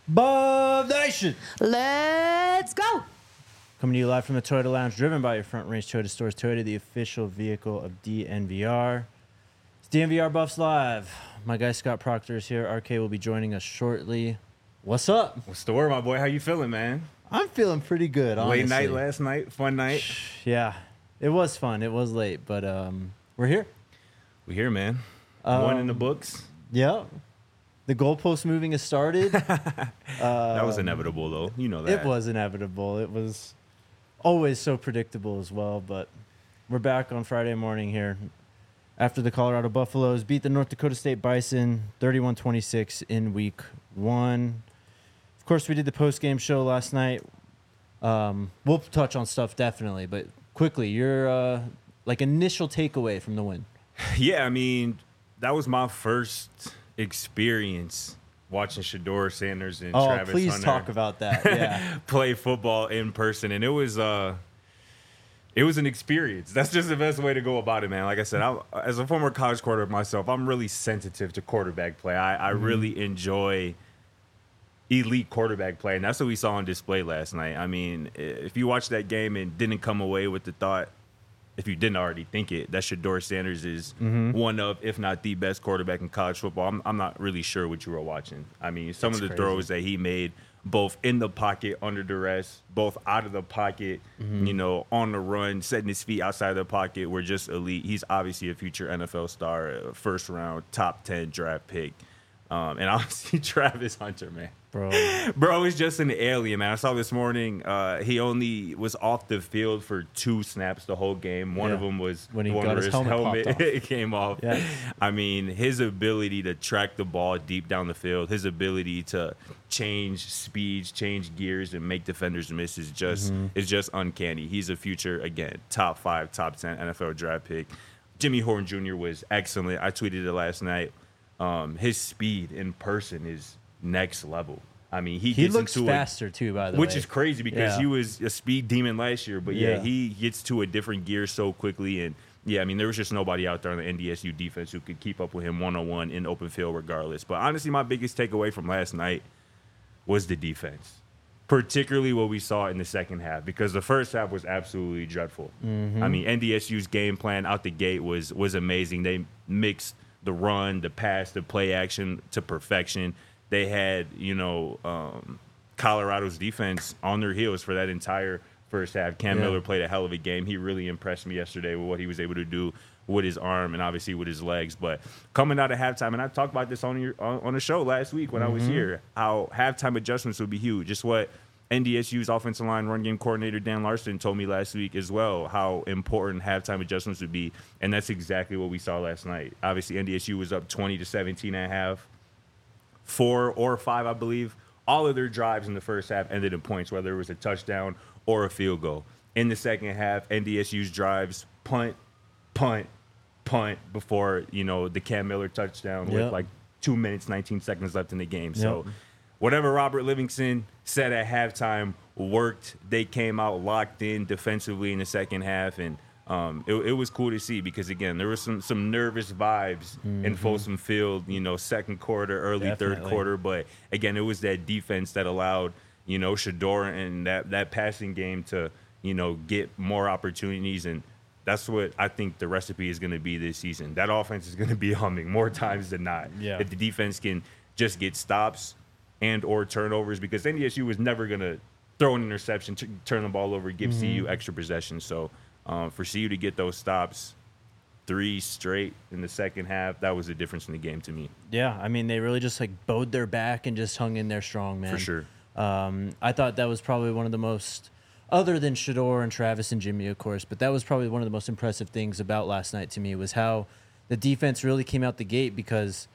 Bob Nation. Let's go. Coming to you live from the Toyota Lounge, driven by your Front Range Toyota Stores. Toyota, the official vehicle of DNVR. It's DNVR Buffs Live. My guy Scott Proctor is here. RK will be joining us shortly. What's up? What's the word, my boy? How you feeling, man? I'm feeling pretty good, honestly. Late night last night, fun night. Yeah, it was fun. It was late, but we're here. We here, man. One in the books. Yeah. The goalpost moving has started. That was inevitable, though. You know that. It was inevitable. It was always so predictable as well, but we're back on Friday morning here after the Colorado Buffaloes beat the North Dakota State Bison 31-26 in week 1. Of course, we did the post-game show last night. We'll touch on stuff definitely, but quickly, your initial takeaway from the win. Yeah, I mean, that was my first experience watching Shedeur Sanders and Travis please Hunter talk about that. Yeah. play football in person, and it was an experience. That's just the best way to go about it, man. Like I said, as a former college quarterback myself, I'm really sensitive to quarterback play. I really enjoy elite quarterback play, and that's what we saw on display last night. I mean, if you watched that game and didn't come away with the thought, if you didn't already think it, that Shedeur Sanders is one of, if not the best quarterback in college football, I'm not really sure what you were watching. I mean, some of the throws that he made, both in the pocket, under duress, both out of the pocket, on the run, setting his feet outside of the pocket, were just elite. He's obviously a future NFL star, a first-round, top 10 draft pick. And obviously Travis Hunter, man. Bro is just an alien, man. I saw this morning he only was off the field for 2 snaps the whole game. One of them was when he one got where his helmet it came off. Yeah. I mean, his ability to track the ball deep down the field, his ability to change speeds, change gears, and make defenders miss is just uncanny. He's a future, again, top 5, top 10 NFL draft pick. Jimmy Horn Jr. was excellent. I tweeted it last night. His speed in person is next level. I mean, he looks faster too, by the way, which is crazy because he was a speed demon last year. But he gets to a different gear so quickly, and I mean, there was just nobody out there on the NDSU defense who could keep up with him one-on-one in open field, regardless. But honestly, my biggest takeaway from last night was the defense, particularly what we saw in the second half, because the first half was absolutely dreadful. I mean, NDSU's game plan out the gate was amazing. They mixed the run, the pass, the play action to perfection. They had, Colorado's defense on their heels for that entire first half. Cam Miller played a hell of a game. He really impressed me yesterday with what he was able to do with his arm and obviously with his legs. But coming out of halftime, and I talked about this on the show last week when I was here, how halftime adjustments would be huge. Just what NDSU's offensive line run game coordinator Dan Larson told me last week as well, how important halftime adjustments would be, and that's exactly what we saw last night. Obviously, NDSU was up 20-17 at half. 4 or 5, I believe. All of their drives in the first half ended in points, whether it was a touchdown or a field goal. In the second half, NDSU's drives punt before, the Cam Miller touchdown with 2 minutes, 19 seconds left in the game. So whatever Robert Livingston said at halftime worked. They came out locked in defensively in the second half, and it was cool to see because, again, there was some nervous vibes in Folsom Field, second quarter, early third quarter. But, again, it was that defense that allowed, Shedeur and that passing game to, get more opportunities. And that's what I think the recipe is going to be this season. That offense is going to be humming more times than not. Yeah. If the defense can just get stops and or turnovers, because NDSU was never going to throw an interception, turn the ball over, give CU extra possessions. So, for CU to get those stops 3 straight in the second half, that was the difference in the game to me. Yeah, I mean, they really just bowed their back and just hung in there strong, man. For sure. I thought that was probably one of the most, other than Shedeur and Travis and Jimmy, of course, but that was probably one of the most impressive things about last night to me was how the defense really came out the gate because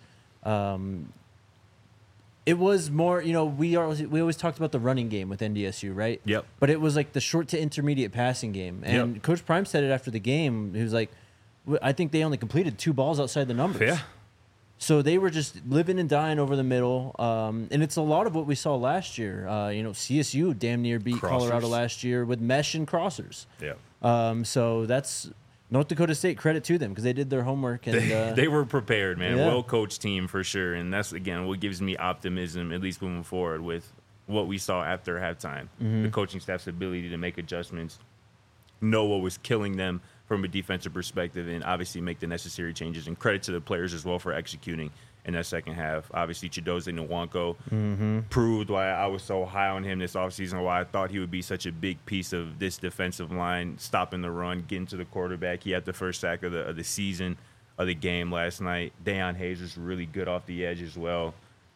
it was more, we always talked about the running game with NDSU, right? Yep. But it was the short to intermediate passing game. And Coach Prime said it after the game. He was like, I think they only completed 2 balls outside the numbers. Yeah. So they were just living and dying over the middle. And it's a lot of what we saw last year. CSU damn near beat Colorado last year with mesh and crossers. Yeah. So that's, North Dakota State, credit to them because they did their homework. And they were prepared, man. Yeah. Well-coached team for sure. And that's, again, what gives me optimism, at least moving forward with what we saw after halftime. The coaching staff's ability to make adjustments, know what was killing them from a defensive perspective, and obviously make the necessary changes. And credit to the players as well for executing in that second half. Obviously, Chidozie Nwankwo proved why I was so high on him this offseason, why I thought he would be such a big piece of this defensive line, stopping the run, getting to the quarterback. He had the first sack of the season, of the game last night. Deion Hayes was really good off the edge as well.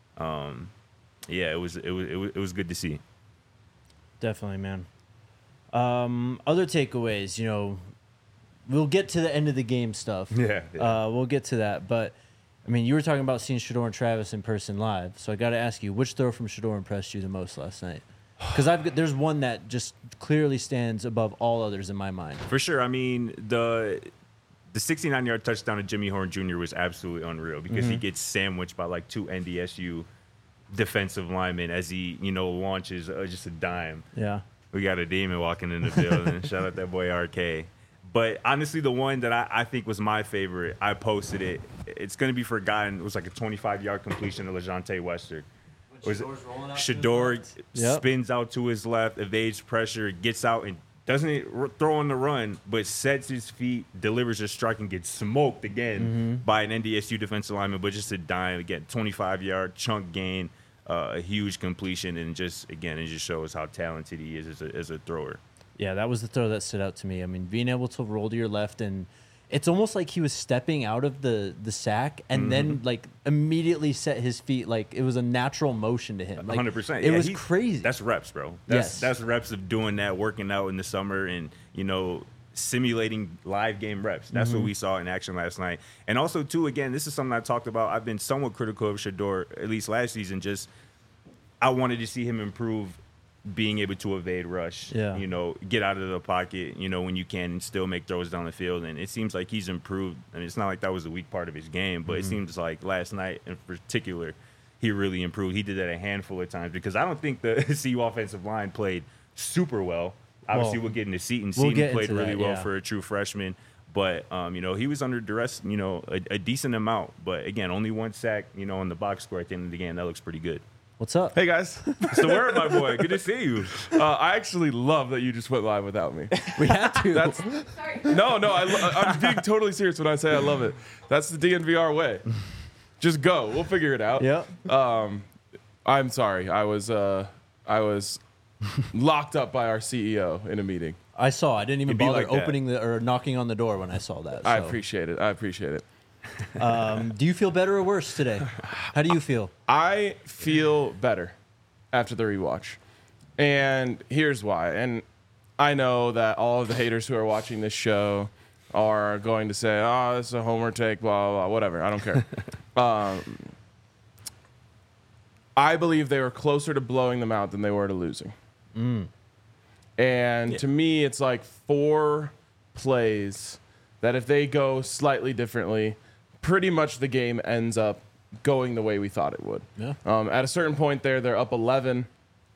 Yeah, it was good to see. Definitely, man. Other takeaways, we'll get to the end of the game stuff. Yeah. We'll get to that. But, I mean, you were talking about seeing Shedeur and Travis in person live. So I got to ask you, which throw from Shedeur impressed you the most last night? Because there's one that just clearly stands above all others in my mind. For sure. I mean, the 69-yard touchdown of Jimmy Horn Jr. was absolutely unreal because he gets sandwiched by like 2 NDSU defensive linemen as he, launches just a dime. Yeah. We got a demon walking in the building. Shout out that boy RK. But honestly, the one that I think was my favorite, I posted it. It's going to be forgotten. It was like a 25-yard completion to LeJontay Wester. Shedeur spins out to his left, evades pressure, gets out and doesn't throw on the run, but sets his feet, delivers a strike, and gets smoked again by an NDSU defensive lineman, but just a dime. Again, 25-yard chunk gain, a huge completion, and it just shows how talented he is as a thrower. Yeah, that was the throw that stood out to me. I mean, being able to roll to your left, and it's almost like he was stepping out of the sack and then like immediately set his feet like it was a natural motion to him. Like, 100%. It was crazy. That's reps, bro. That's reps of doing that, working out in the summer, and simulating live game reps. That's what we saw in action last night. And also, too, again, this is something I talked about. I've been somewhat critical of Shedeur, at least last season. Just I wanted to see him improve being able to evade rush, get out of the pocket, when you can and still make throws down the field. And it seems like he's improved. I mean, it's not like that was a weak part of his game, but it seems like last night in particular, he really improved. He did that a handful of times because I don't think the CU offensive line played super well. Obviously, we'll get into Seton. Seton played really well for a true freshman. But, he was under duress, a decent amount. But, again, only one sack, on the box score at the end of the game. That looks pretty good. What's up? Hey, guys. It's the word, my boy. Good to see you. I actually love that you just went live without me. We had to. Sorry. No, I'm being totally serious when I say I love it. That's the DNVR way. Just go. We'll figure it out. Yep. I'm sorry. I was locked up by our CEO in a meeting. I saw. I didn't even It'd be bother like that. opening or knocking on the door when I saw that. So. I appreciate it. Do you feel better or worse today? How do you feel? I feel better after the rewatch. And here's why. And I know that all of the haters who are watching this show are going to say, oh, this is a homer take, blah, blah, blah, whatever. I don't care. I believe they were closer to blowing them out than they were to losing. And to me, it's like 4 plays that if they go slightly differently, pretty much the game ends up going the way we thought it would. Yeah. At a certain point there, they're up 11.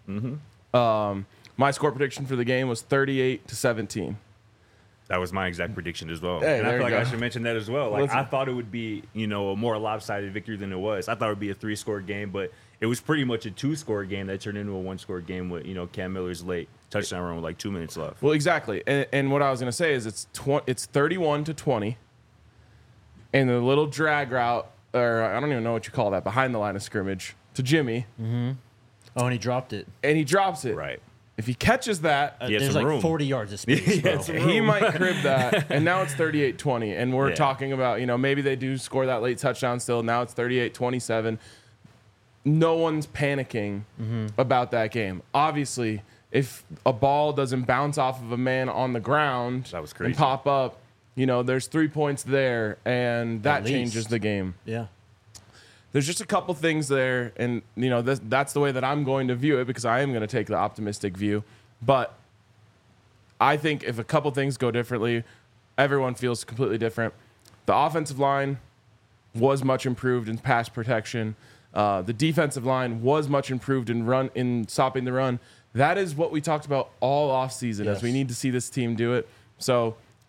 My score prediction for the game was 38-17. That was my exact prediction as well. Hey, and I there feel you like I go. should mention that as well. Like, I thought it would be, a more lopsided victory than it was. I thought it would be a 3-score game, but it was pretty much a 2-score game that turned into a 1-score game with, Cam Miller's late touchdown run with like 2 minutes left. Well, exactly. And what I was going to say is it's 31-20. And the little drag route, or I don't even know what you call that, behind the line of scrimmage to Jimmy. Oh, and he dropped it. And he drops it. Right. If he catches that, He had There's some like room. 40 yards of space, bro. he might crib that. And now it's 38-20. And we're Yeah. talking about, maybe they do score that late touchdown still. Now it's 38-27. No one's panicking about that game. Obviously, if a ball doesn't bounce off of a man on the ground That was crazy. and pop up, there's 3 points there, and that At least. changes the game. Yeah. There's just a couple things there, and that's the way that I'm going to view it because I am going to take the optimistic view. But I think if a couple things go differently, everyone feels completely different. The offensive line was much improved in pass protection. The defensive line was much improved in stopping the run. That is what we talked about all offseason, Yes. as we need to see this team do it. So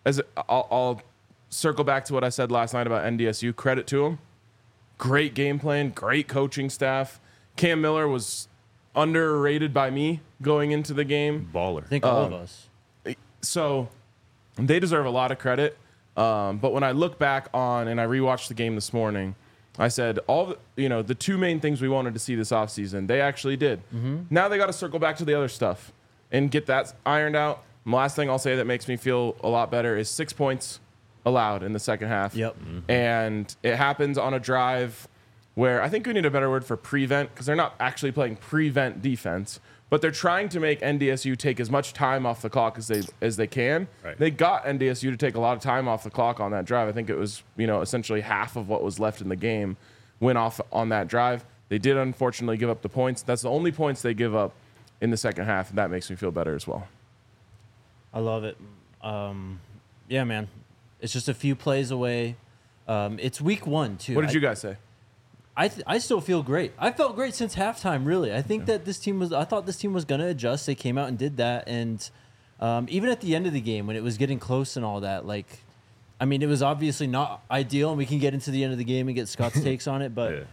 I'll circle back to what I said last night about NDSU. Credit to them. Great game plan, great coaching staff. Cam Miller was underrated by me going into the game. Baller. I think all of us. So they deserve a lot of credit. But when I look back on and I rewatched the game this morning, I said the two main things we wanted to see this offseason, they actually did. Now they got to circle back to the other stuff and get that ironed out. And the last thing I'll say that makes me feel a lot better is 6 points allowed in the second half. Yep. And it happens on a drive where I think we need a better word for prevent, because they're not actually playing prevent defense, but they're trying to make NDSU take as much time off the clock as they can. Right. They got NDSU to take a lot of time off the clock on that drive. I think it was, essentially half of what was left in the game went off on that drive. They did unfortunately give up the points. That's the only points they give up in the second half, and that makes me feel better as well. I love it. Yeah, man. It's just a few plays away. It's week 1 too. What did you guys say? I still feel great. I felt great since halftime, really. I think that I thought this team was going to adjust. They came out and did that. And even at the end of the game, when it was getting close and all that, it was obviously not ideal, and we can get into the end of the game and get Scott's takes on it. But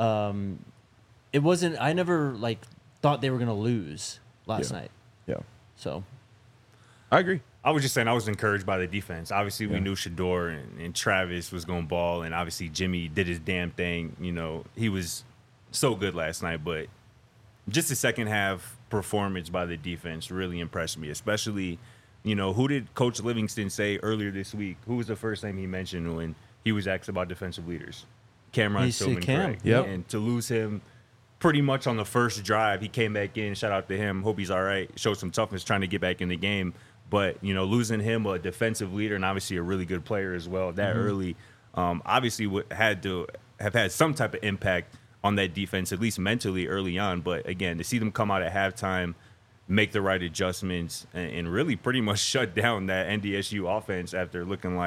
it wasn't, I never, thought they were going to lose last night. Yeah. So. I agree. I was just saying I was encouraged by the defense. Obviously, we knew Shedeur and Travis was going to ball, and obviously Jimmy did his damn thing. He was so good last night, but just the second half performance by the defense really impressed me, especially, who did Coach Livingston say earlier this week? Who was the first name he mentioned when he was asked about defensive leaders? Cameron Stillman Craig. Yep. And to lose him pretty much on the first drive, he came back in. Shout out to him. Hope he's all right. Showed some toughness trying to get back in the game. But, losing him, a defensive leader and obviously a really good player as well, that early, obviously had to have had some type of impact on that defense, at least mentally early on. But, again, to see them come out at halftime, make the right adjustments, and really pretty much shut down that NDSU offense after looking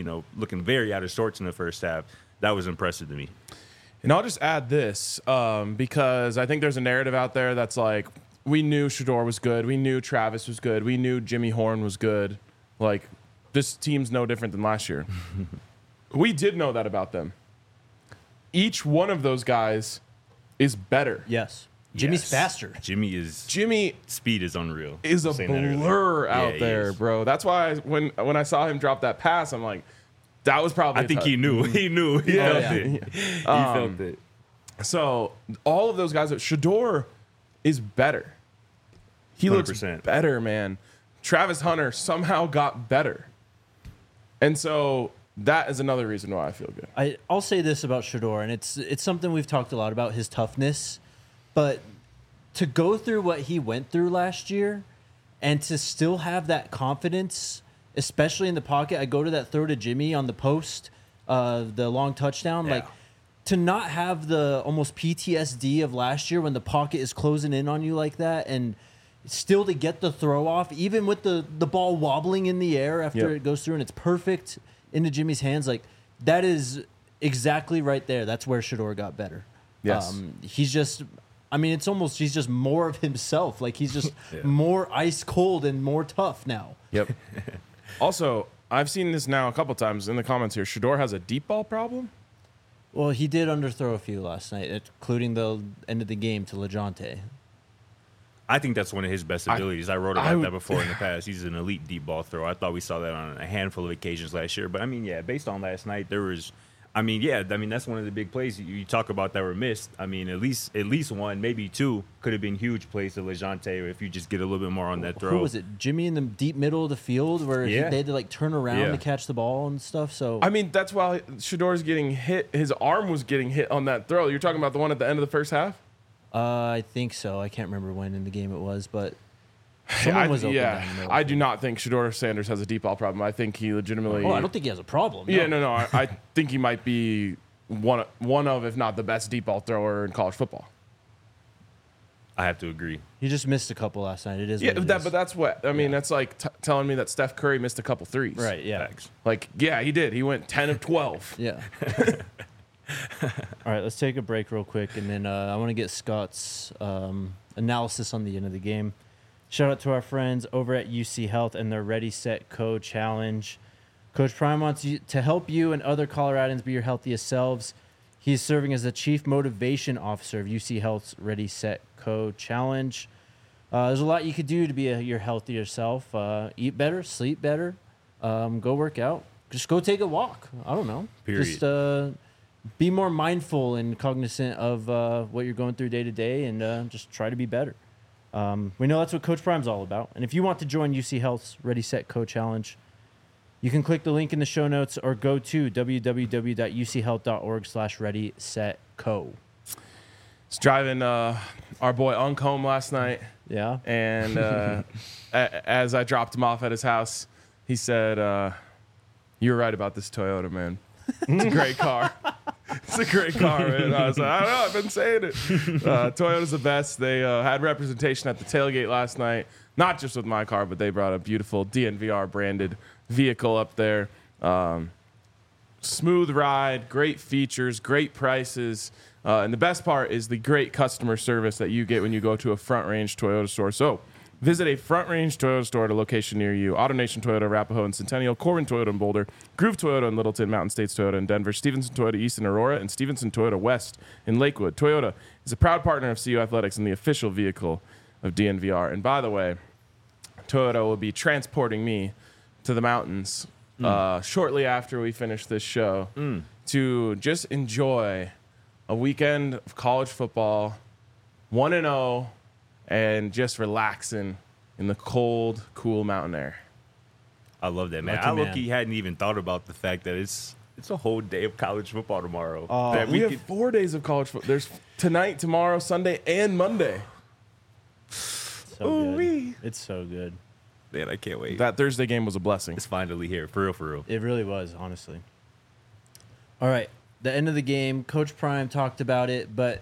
very out of sorts in the first half, that was impressive to me. And I'll just add this because I think there's a narrative out there that's like, we knew Shedeur was good. We knew Travis was good. We knew Jimmy Horn was good. This team's no different than last year. We did know that about them. Each one of those guys is better. Yes. Jimmy's faster. Jimmy speed is unreal. Is a blur out there, bro. That's why when I saw him drop that pass, I'm like, that was probably. I think he knew. He knew. He felt it. He felt it. So all of those guys, Shedeur is better. He 100%. Looks better, man. Travis Hunter somehow got better. And so that is another reason why I feel good. I'll say this about Shedeur, and it's something we've talked a lot about, his toughness. But to go through what he went through last year and to still have that confidence, especially in the pocket. I go to that throw to Jimmy on the post, the long touchdown. Yeah. To not have the almost PTSD of last year when the pocket is closing in on you like that, and still to get the throw off, even with the ball wobbling in the air after it goes through and it's perfect into Jimmy's hands, that is exactly right there. That's where Shedeur got better. Yes. He's just, it's almost, he's just more of himself. He's just more ice cold and more tough now. Yep. Also, I've seen this now a couple times in the comments here. Shedeur has a deep ball problem. Well, he did underthrow a few last night, including the end of the game to LeJounte. I think that's one of his best abilities. I wrote about that before in the past. He's an elite deep ball thrower. I thought we saw that on a handful of occasions last year. But, based on last night, there was that's one of the big plays you talk about that were missed. At least one, maybe two could have been huge plays to LeJounte if you just get a little bit more on that throw. Who was it? Jimmy in the deep middle of the field where they had to turn around to catch the ball and stuff. So that's why Shedeur's getting hit. His arm was getting hit on that throw. You're talking about the one at the end of the first half? I think so. I can't remember when in the game it was, but someone was open down the middle. I do not think Shedeur Sanders has a deep ball problem. I think he legitimately. Oh, I don't think he has a problem. No. Yeah, no. I think he might be one of, if not the best deep ball thrower in college football. I have to agree. He just missed a couple last night. It is. Yeah, but that's what I mean. That's like telling me that Steph Curry missed a couple threes. Right. Yeah. Facts. He did. He went 10 of 12. Yeah. All right, let's take a break real quick, and then I want to get Scott's analysis on the end of the game. Shout out to our friends over at UC Health and their Ready, Set, Go challenge. Coach Prime wants you to help you and other Coloradans be your healthiest selves. He's serving as the Chief Motivation Officer of UC Health's Ready, Set, Co Challenge. There's a lot you could do to be your healthier self. Eat better, sleep better, go work out. Just go take a walk. I don't know. Period. Just be more mindful and cognizant of what you're going through day to day, and just try to be better. We know that's what Coach Prime's all about. And if you want to join UC Health's Ready, Set, Co Challenge, you can click the link in the show notes or go to www.uchealth.org/ready-set-co. Was driving our boy Unk home last night, Yeah. and as I dropped him off at his house, he said, "You're right about this Toyota, man. It's a great car. It's a great car, man." I was like, "I don't know. I've been saying it. Toyota's the best." They had representation at the tailgate last night, not just with my car, but they brought a beautiful DNVR branded vehicle up there. Smooth ride, great features, great prices. And the best part is the great customer service that you get when you go to a Front Range Toyota store. So visit a Front Range Toyota store at a location near you. AutoNation Toyota, Arapahoe and Centennial, Corbin Toyota in Boulder, Groove Toyota in Littleton, Mountain States Toyota in Denver, Stevenson Toyota East in Aurora, and Stevenson Toyota West in Lakewood. Toyota is a proud partner of CU Athletics and the official vehicle of DNVR. And by the way, Toyota will be transporting me to the mountains shortly after we finish this show to just enjoy a weekend of college football, 1-0, and just relaxing in the cold, cool mountain air. I love that, man. Lucky I man. look-key hadn't even thought about the fact that it's a whole day of college football tomorrow. That We have could- 4 days of college football. There's tonight, tomorrow, Sunday, and Monday. So Ooh-wee. good. It's so good. Man, I can't wait. That Thursday game was a blessing. It's finally here, for real, for real. It really was, honestly. All right. The end of the game, Coach Prime talked about it, but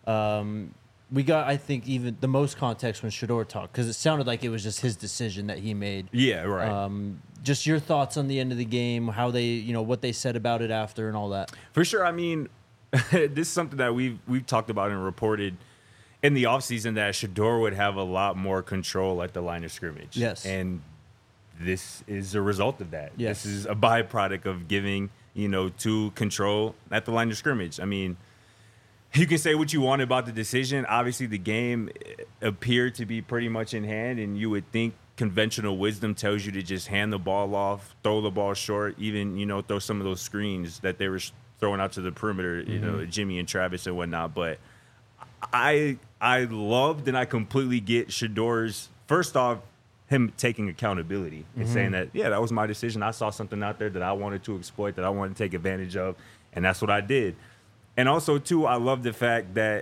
we got, I think, even the most context when Shedeur talked, because it sounded like it was just his decision that he made. Yeah, right. Just your thoughts on the end of the game, how they, what they said about it after and all that. For sure. I mean, this is something that we've talked about and reported in the offseason, that Shedeur would have a lot more control at the line of scrimmage. Yes. And this is a result of that. Yes. This is a byproduct of giving, to control at the line of scrimmage. I mean, you can say what you want about the decision. Obviously, the game appeared to be pretty much in hand, and you would think conventional wisdom tells you to just hand the ball off, throw the ball short, even, throw some of those screens that they were throwing out to the perimeter, Jimmy and Travis and whatnot. But I loved and I completely get Shedeur's, first off, him taking accountability and saying that, yeah, that was my decision. I saw something out there that I wanted to exploit, that I wanted to take advantage of, and that's what I did. And also, too, I love the fact that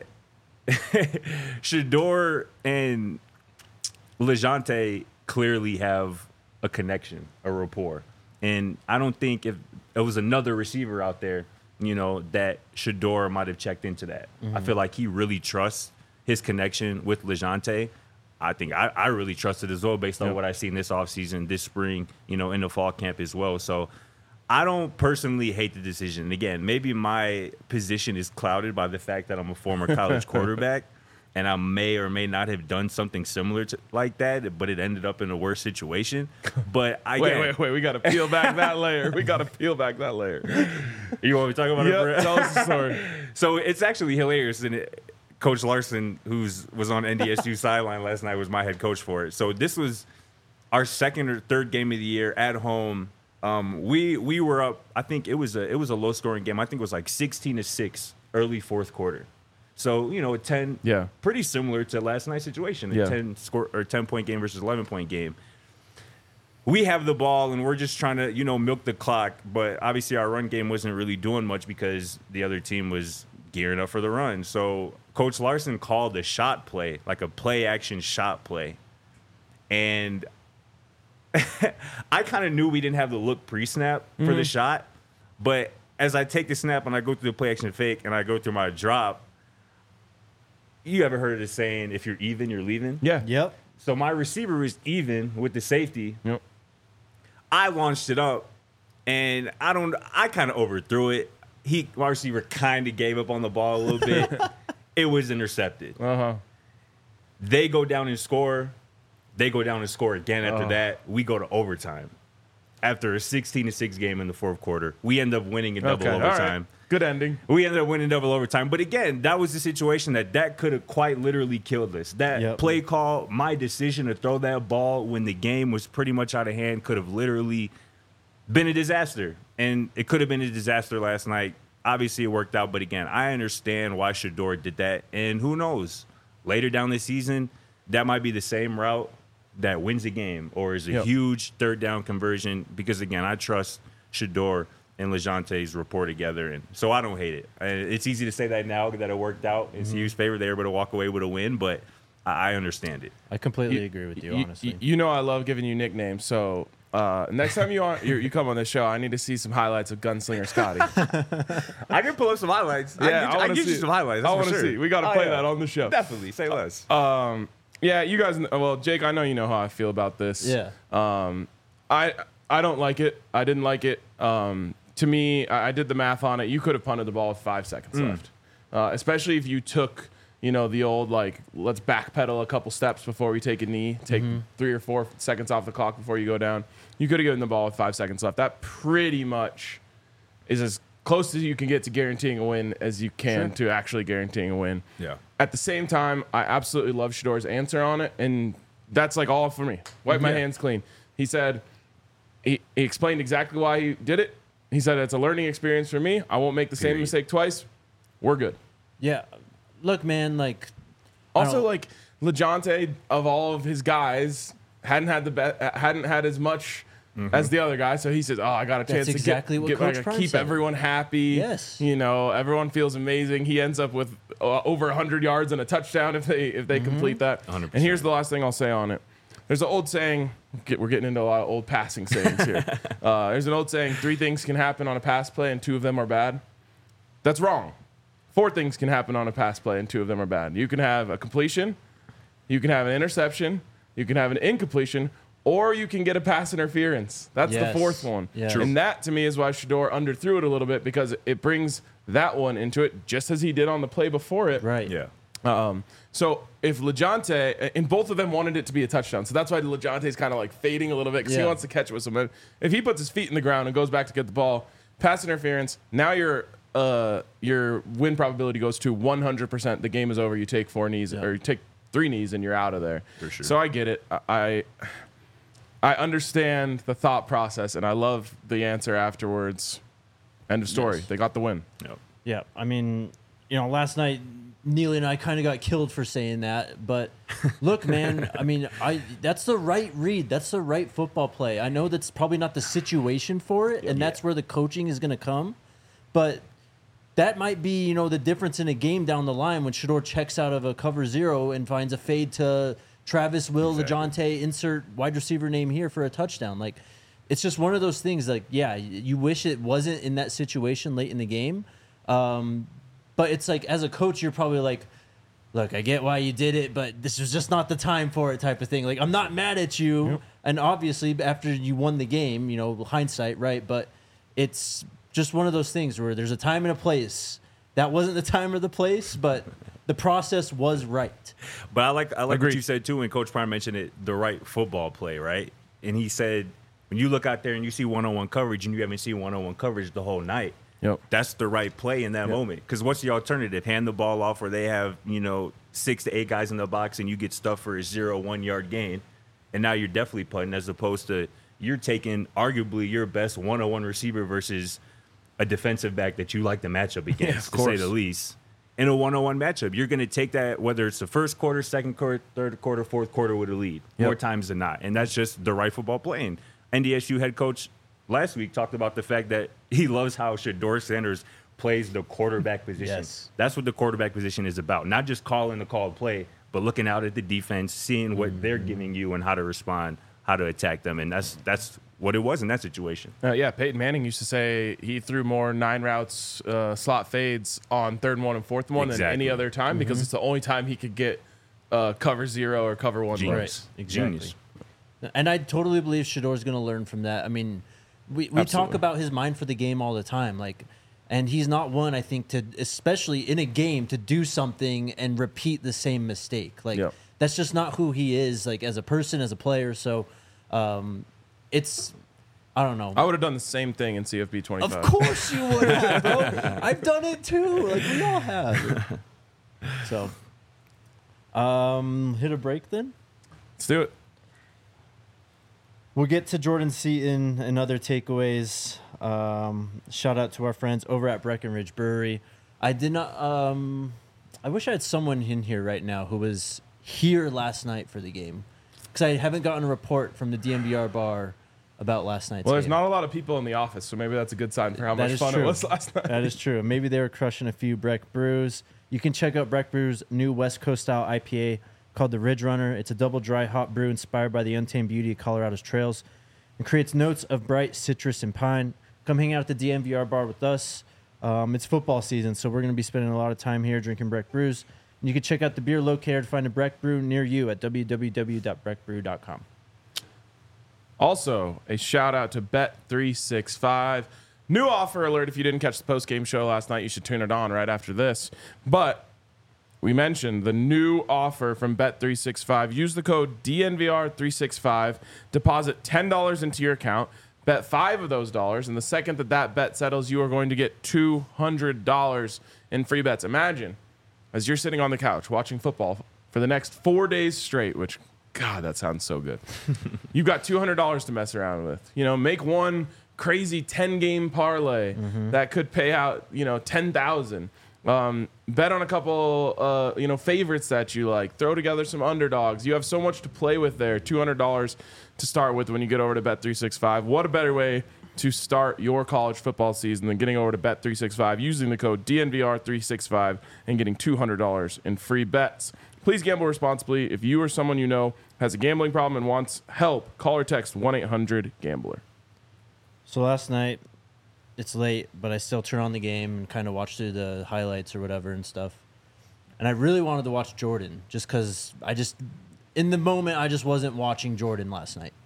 Shedeur and LeJounte clearly have a connection, a rapport. And I don't think if it was another receiver out there, that Shedeur might have checked into that. I feel like he really trusts his connection with LeJounte. I think I really trust it as well based on what I've seen this offseason, this spring, in the fall camp as well. So I don't personally hate the decision. And again, maybe my position is clouded by the fact that I'm a former college quarterback, and I may or may not have done something similar to like that, but it ended up in a worse situation. But Wait. We got to peel back that layer. You want me to talk about it, Yep, Brett? tell us the story. So it's actually hilarious. And Coach Larson, was on NDSU sideline last night, was my head coach for it. So this was our second or third game of the year at home. We were up. I think it was a low scoring game. I think it was like 16-6 early fourth quarter. So a 10, pretty similar to last night's situation, a 10-point game versus 11-point game. We have the ball and we're just trying to milk the clock, but obviously our run game wasn't really doing much because the other team was gearing up for the run. So Coach Larson called a shot play, like a play action shot play, and I kind of knew we didn't have the look pre-snap for the shot, but as I take the snap and I go through the play action fake and I go through my drop, you ever heard of the saying, if you're even, you're leaving? Yeah. Yep. So my receiver was even with the safety. Yep. I launched it up, and I kind of overthrew it. My receiver kind of gave up on the ball a little bit. It was intercepted. They go down and score. They go down and score again after that. We go to overtime. after a 16-6 game in the fourth quarter. We end up winning in double Okay, all overtime. right. Good ending. We ended up winning double overtime. But again, that was the situation that could have quite literally killed us. That play call, my decision to throw that ball when the game was pretty much out of hand could have literally been a disaster. And it could have been a disaster last night. Obviously, it worked out. But again, I understand why Shedeur did that. And who knows? Later down the season, that might be the same route that wins a game or is a huge third down conversion. Because, again, I trust Shedeur and LeJounte's rapport together. And so I don't hate it. It's easy to say that now that it worked out in CU's favor. They were able to walk away with a win, but I understand it. I completely agree with you, honestly. You know I love giving you nicknames, so next time you come on this show, I need to see some highlights of Gunslinger Scotty. I can pull up some highlights. Yeah, I can give you some highlights. I want to see. We got to play that on the show. Definitely. Say less. Yeah, you guys. Well, Jake, I know you know how I feel about this. Yeah. I don't like it. I didn't like it. To me, I did the math on it. You could have punted the ball with 5 seconds left, especially if you took, the old, let's backpedal a couple steps before we take a knee, take 3 or 4 seconds off the clock before you go down. You could have given the ball with 5 seconds left. That pretty much is as close as you can get to guaranteeing a win as you can to actually guaranteeing a win. Yeah. At the same time, I absolutely love Shedeur's answer on it, and that's all for me. Wipe my hands clean. He said, he explained exactly why he did it. He said, it's a learning experience for me. I won't make the same mistake twice. We're good. Yeah. Look, man, Also, LeJounte, of all of his guys, hadn't had as much as the other guy. So he says, I got a chance exactly what to Coach Prime keep said. everyone happy. Yes. Everyone feels amazing. He ends up with over 100 yards and a touchdown if they complete that. 100%. And here's the last thing I'll say on it. There's an old saying, we're getting into a lot of old passing sayings here. There's an old saying, 3 things can happen on a pass play and 2 of them are bad. That's wrong. 4 things can happen on a pass play and 2 of them are bad. You can have a completion, you can have an interception, you can have an incompletion, or you can get a pass interference. That's the 4th one. Yeah. And that, to me, is why Shedeur underthrew it a little bit, because it brings that one into it, just as he did on the play before it. Right. Yeah. So if LeJounte, and both of them wanted it to be a touchdown, so that's why LeJounte's kind of fading a little bit because he wants to catch it with someone. If he puts his feet in the ground and goes back to get the ball, pass interference, now your win probability goes to 100%. The game is over. You take 4 knees or you take 3 knees and you're out of there. For sure. So I get it. I understand the thought process, and I love the answer afterwards. End of story. They got the win. Yep. Yeah. I mean, last night, Neely and I kind of got killed for saying that, but look, man, I mean, that's the right read. That's the right football play. I know that's probably not the situation for it, and that's where the coaching is going to come, but that might be, the difference in a game down the line when Shedeur checks out of a cover 0 and finds a fade to Travis, LeJounte, insert wide receiver name here for a touchdown. It's just one of those things. You wish it wasn't in that situation late in the game. But it's as a coach, you're probably look, I get why you did it, but this was just not the time for it type of thing. I'm not mad at you. Yep. And obviously, after you won the game, hindsight, right? But it's just one of those things where there's a time and a place. That wasn't the time or the place, but the process was right. But I like what you said, too, when Coach Prime mentioned it, the right football play, right? And he said, when you look out there and you see one-on-one coverage and you haven't seen one-on-one coverage the whole night, that's the right play in that moment. Because what's the alternative? Hand the ball off where they have, 6 to 8 guys in the box and you get stuffed for a 0-1 yard gain. And now you're definitely punting, as opposed to you're taking arguably your best one-on-one receiver versus a defensive back that you like the matchup against, to say the least. In a one-on-one matchup, you're going to take that, whether it's the first quarter, second quarter, third quarter, fourth quarter with a lead, more times than not. And that's just the right football playing. NDSU head coach last week talked about the fact that he loves how Shedeur Sanders plays the quarterback position. Yes. That's what the quarterback position is about. Not just calling the called play, but looking out at the defense, seeing what they're giving you and how to respond, how to attack them. And that's what it was in that situation. Peyton Manning used to say he threw more 9 routes, slot fades on 3rd and 1 and 4th and 1 than any other time because it's the only time he could get cover 0 or cover 1 looks. Right. Exactly. Genius. And I totally believe Shedeur's going to learn from that. I mean, we talk about his mind for the game all the time, and he's not one, I think, to, especially in a game, to do something and repeat the same mistake. That's just not who he is, as a person, as a player. So, I don't know. I would have done the same thing in CFB 25. Of course you would have, bro. I've done it too. Like we all have. So, hit a break then. Let's do it. We'll get to Jordan Seaton and other takeaways. Shout out to our friends over at Breckenridge Brewery. I did not. I wish I had someone in here right now who was here last night for the game, because I haven't gotten a report from the DNVR bar about last night's Well, there's game. not a lot of people in the office, so maybe that's a good sign for how That much is fun true. it was last night. That is true. Maybe they were crushing a few Breck brews. You can check out Breck Brew's new West Coast style IPA called the Ridge Runner. It's a double dry hop brew inspired by the untamed beauty of Colorado's trails and creates notes of bright citrus and pine. Come hang out at the DNVR bar with us. It's football season, so we're going to be spending a lot of time here drinking Breck brews. And you can check out the beer locator to find a Breck brew near you at www.breckbrew.com. Also, a shout out to Bet365. New offer alert. If you didn't catch the post-game show last night, you should tune it on right after this. But we mentioned the new offer from Bet365. Use the code DNVR365. Deposit $10 into your account. Bet 5 of those dollars. And the second that bet settles, you are going to get $200 in free bets. Imagine, as you're sitting on the couch watching football for the next 4 days straight, which, God, that sounds so good. You've got $200 to mess around with. You know, make one crazy 10-game parlay that could pay out, $10,000. Bet on a couple, favorites that you like. Throw together some underdogs. You have so much to play with there. $200 to start with when you get over to Bet365. What a better way to start your college football season than getting over to Bet365 using the code DNVR365 and getting $200 in free bets. Please gamble responsibly. If you or someone you know has a gambling problem and wants help, call or text 1-800-GAMBLER. So last night, it's late, but I still turn on the game and kind of watch through the highlights or whatever and stuff. And I really wanted to watch Jordan just because in the moment, I just wasn't watching Jordan last night.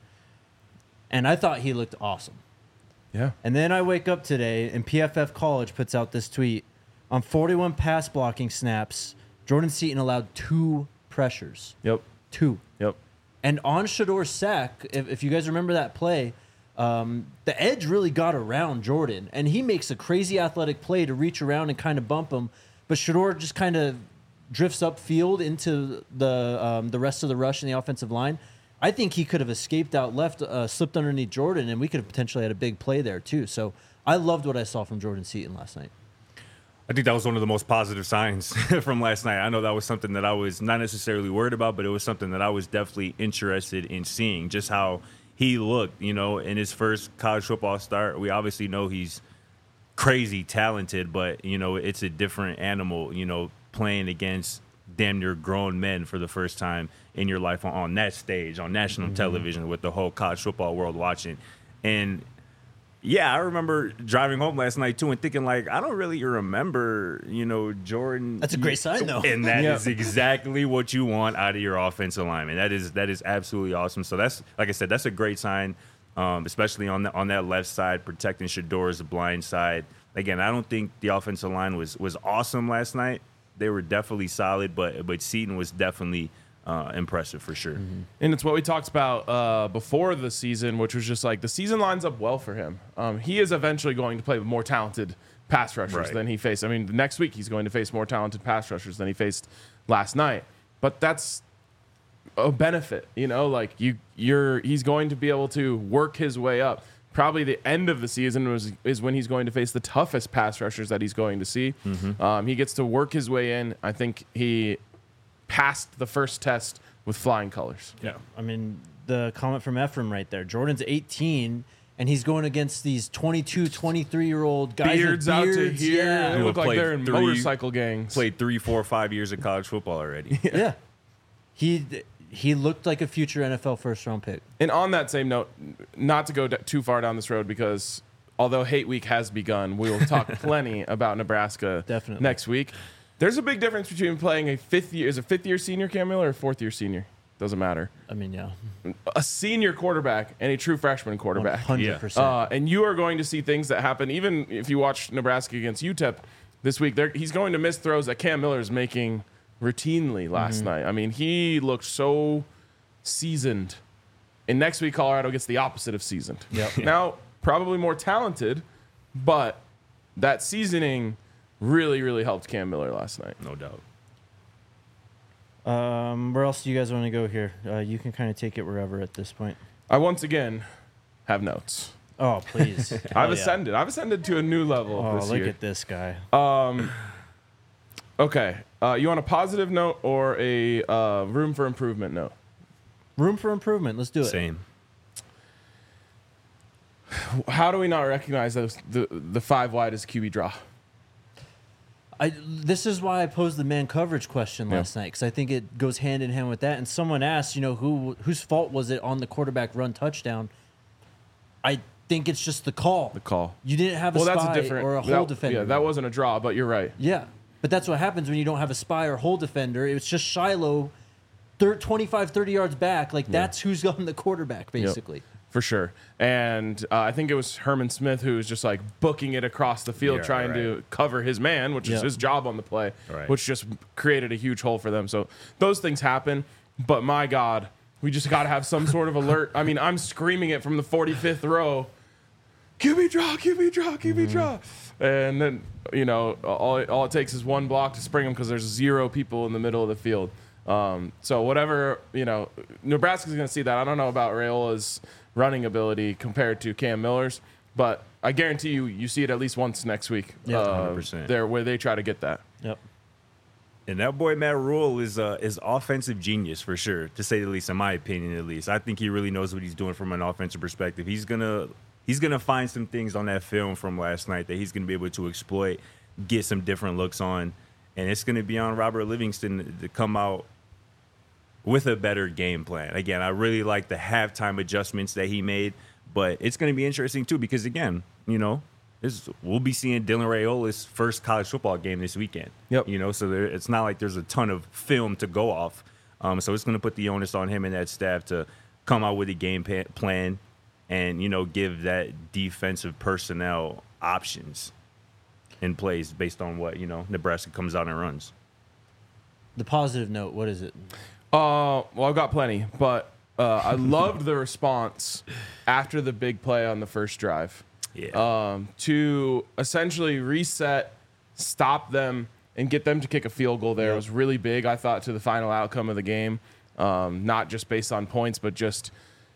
And I thought he looked awesome. Yeah. And then I wake up today and PFF College puts out this tweet. On 41 pass blocking snaps, Jordan Seaton allowed 2 pressures. Yep. 2. Yep. And on Shador's sack, if you guys remember that play, the edge really got around Jordan. And he makes a crazy athletic play to reach around and kind of bump him. But Shador just kind of drifts upfield into the rest of the rush in the offensive line. I think he could have escaped out left, slipped underneath Jordan, and we could have potentially had a big play there too. So I loved what I saw from Jordan Seaton last night. I think that was one of the most positive signs from last night. I know that was something that I was not necessarily worried about, but it was something that I was definitely interested in seeing, just how he looked, in his first college football start. We obviously know he's crazy talented, but, it's a different animal, playing against damn near grown men for the first time in your life on that stage, on national television with the whole college football world watching. And yeah, I remember driving home last night too and thinking I don't really remember, Jordan. That's a great sign though. And that is exactly what you want out of your offensive lineman. That is absolutely awesome. So that's, like I said, that's a great sign, especially on that left side, protecting Shador's blind side. Again, I don't think the offensive line was awesome last night. They were definitely solid, but Seaton was definitely impressive for sure. And it's what we talked about before the season, which was just the season lines up well for him. He is eventually going to play with more talented pass rushers than he faced. I mean, next week he's going to face more talented pass rushers than he faced last night. But that's a benefit, he's going to be able to work his way up. Probably the end of the season is when he's going to face the toughest pass rushers that he's going to see. He gets to work his way in. I think he passed the first test with flying colors. Yeah. I mean, the comment from Ephraim right there. Jordan's 18, and he's going against these 22, 23-year-old guys Beards with out to beards. here. Yeah. They look like Played they're in 3 motorcycle gangs. Played 3, 4, 5 years of college football already. Yeah. He looked like a future NFL first-round pick. And on that same note, not to go too far down this road, because although Hate Week has begun, we will talk plenty about Nebraska Definitely. next week. There's a big difference between playing a fifth-year senior, Cam Miller, or a fourth-year senior. Doesn't matter. I mean, yeah. A senior quarterback and a true freshman quarterback. 100%. And you are going to see things that happen, even if you watch Nebraska against UTEP this week. He's going to miss throws that Cam Miller is making routinely last night. I mean, he looked so seasoned And next week, Colorado gets the opposite of seasoned. Yep. Now, probably more talented, but that seasoning really, really helped Cam Miller last night. No doubt. Where else do you guys want to go here? You can kind of take it wherever at this point. I once again have notes. Oh, please. I've ascended. I've ascended to a new level Oh, this look year. at this guy. Okay. You want a positive note or a room for improvement note? Room for improvement. Let's do it. Same. How do we not recognize the 5 wide as QB draw? This is why I posed the man coverage question last night, because I think it goes hand in hand with that. And someone asked, whose fault was it on the quarterback run touchdown? I think it's just the call. The call. You didn't have a spy or a hole defender. Yeah, that wasn't a draw, but you're right. Yeah, but that's what happens when you don't have a spy or hole defender. It was just Shiloh 25, 30 yards back. That's who's on the quarterback, basically. Yep. For sure. And I think it was Herman Smith who was just like booking it across the field, trying to cover his man, which is his job on the play, which just created a huge hole for them. So those things happen. But my God, we just got to have some sort of alert. I mean, I'm screaming it from the 45th row. QB draw, QB draw, QB draw. And then, all it takes is one block to spring them because there's 0 people in the middle of the field. So whatever, Nebraska's going to see that. I don't know about Raiola's running ability compared to Cam Miller's, but I guarantee you see it at least once next week. Yeah, 100%. There where they try to get that. Yep. And that boy Matt Rule is offensive genius for sure, to say the least. In my opinion, at least, I think he really knows what he's doing from an offensive perspective. He's gonna find some things on that film from last night that he's gonna be able to exploit, get some different looks on, and it's gonna be on Robert Livingston to come out with a better game plan. Again, I really like the halftime adjustments that he made, but it's going to be interesting too because, again, we'll be seeing Dylan Raiola's first college football game this weekend. Yep. So it's not like there's a ton of film to go off. So it's going to put the onus on him and that staff to come out with a game plan and, give that defensive personnel options in place based on what, Nebraska comes out and runs. The positive note, what is it? Well, I've got plenty, but I loved the response after the big play on the first drive. Yeah. To essentially reset, stop them, and get them to kick a field goal there was really big, I thought, to the final outcome of the game. Not just based on points, but just,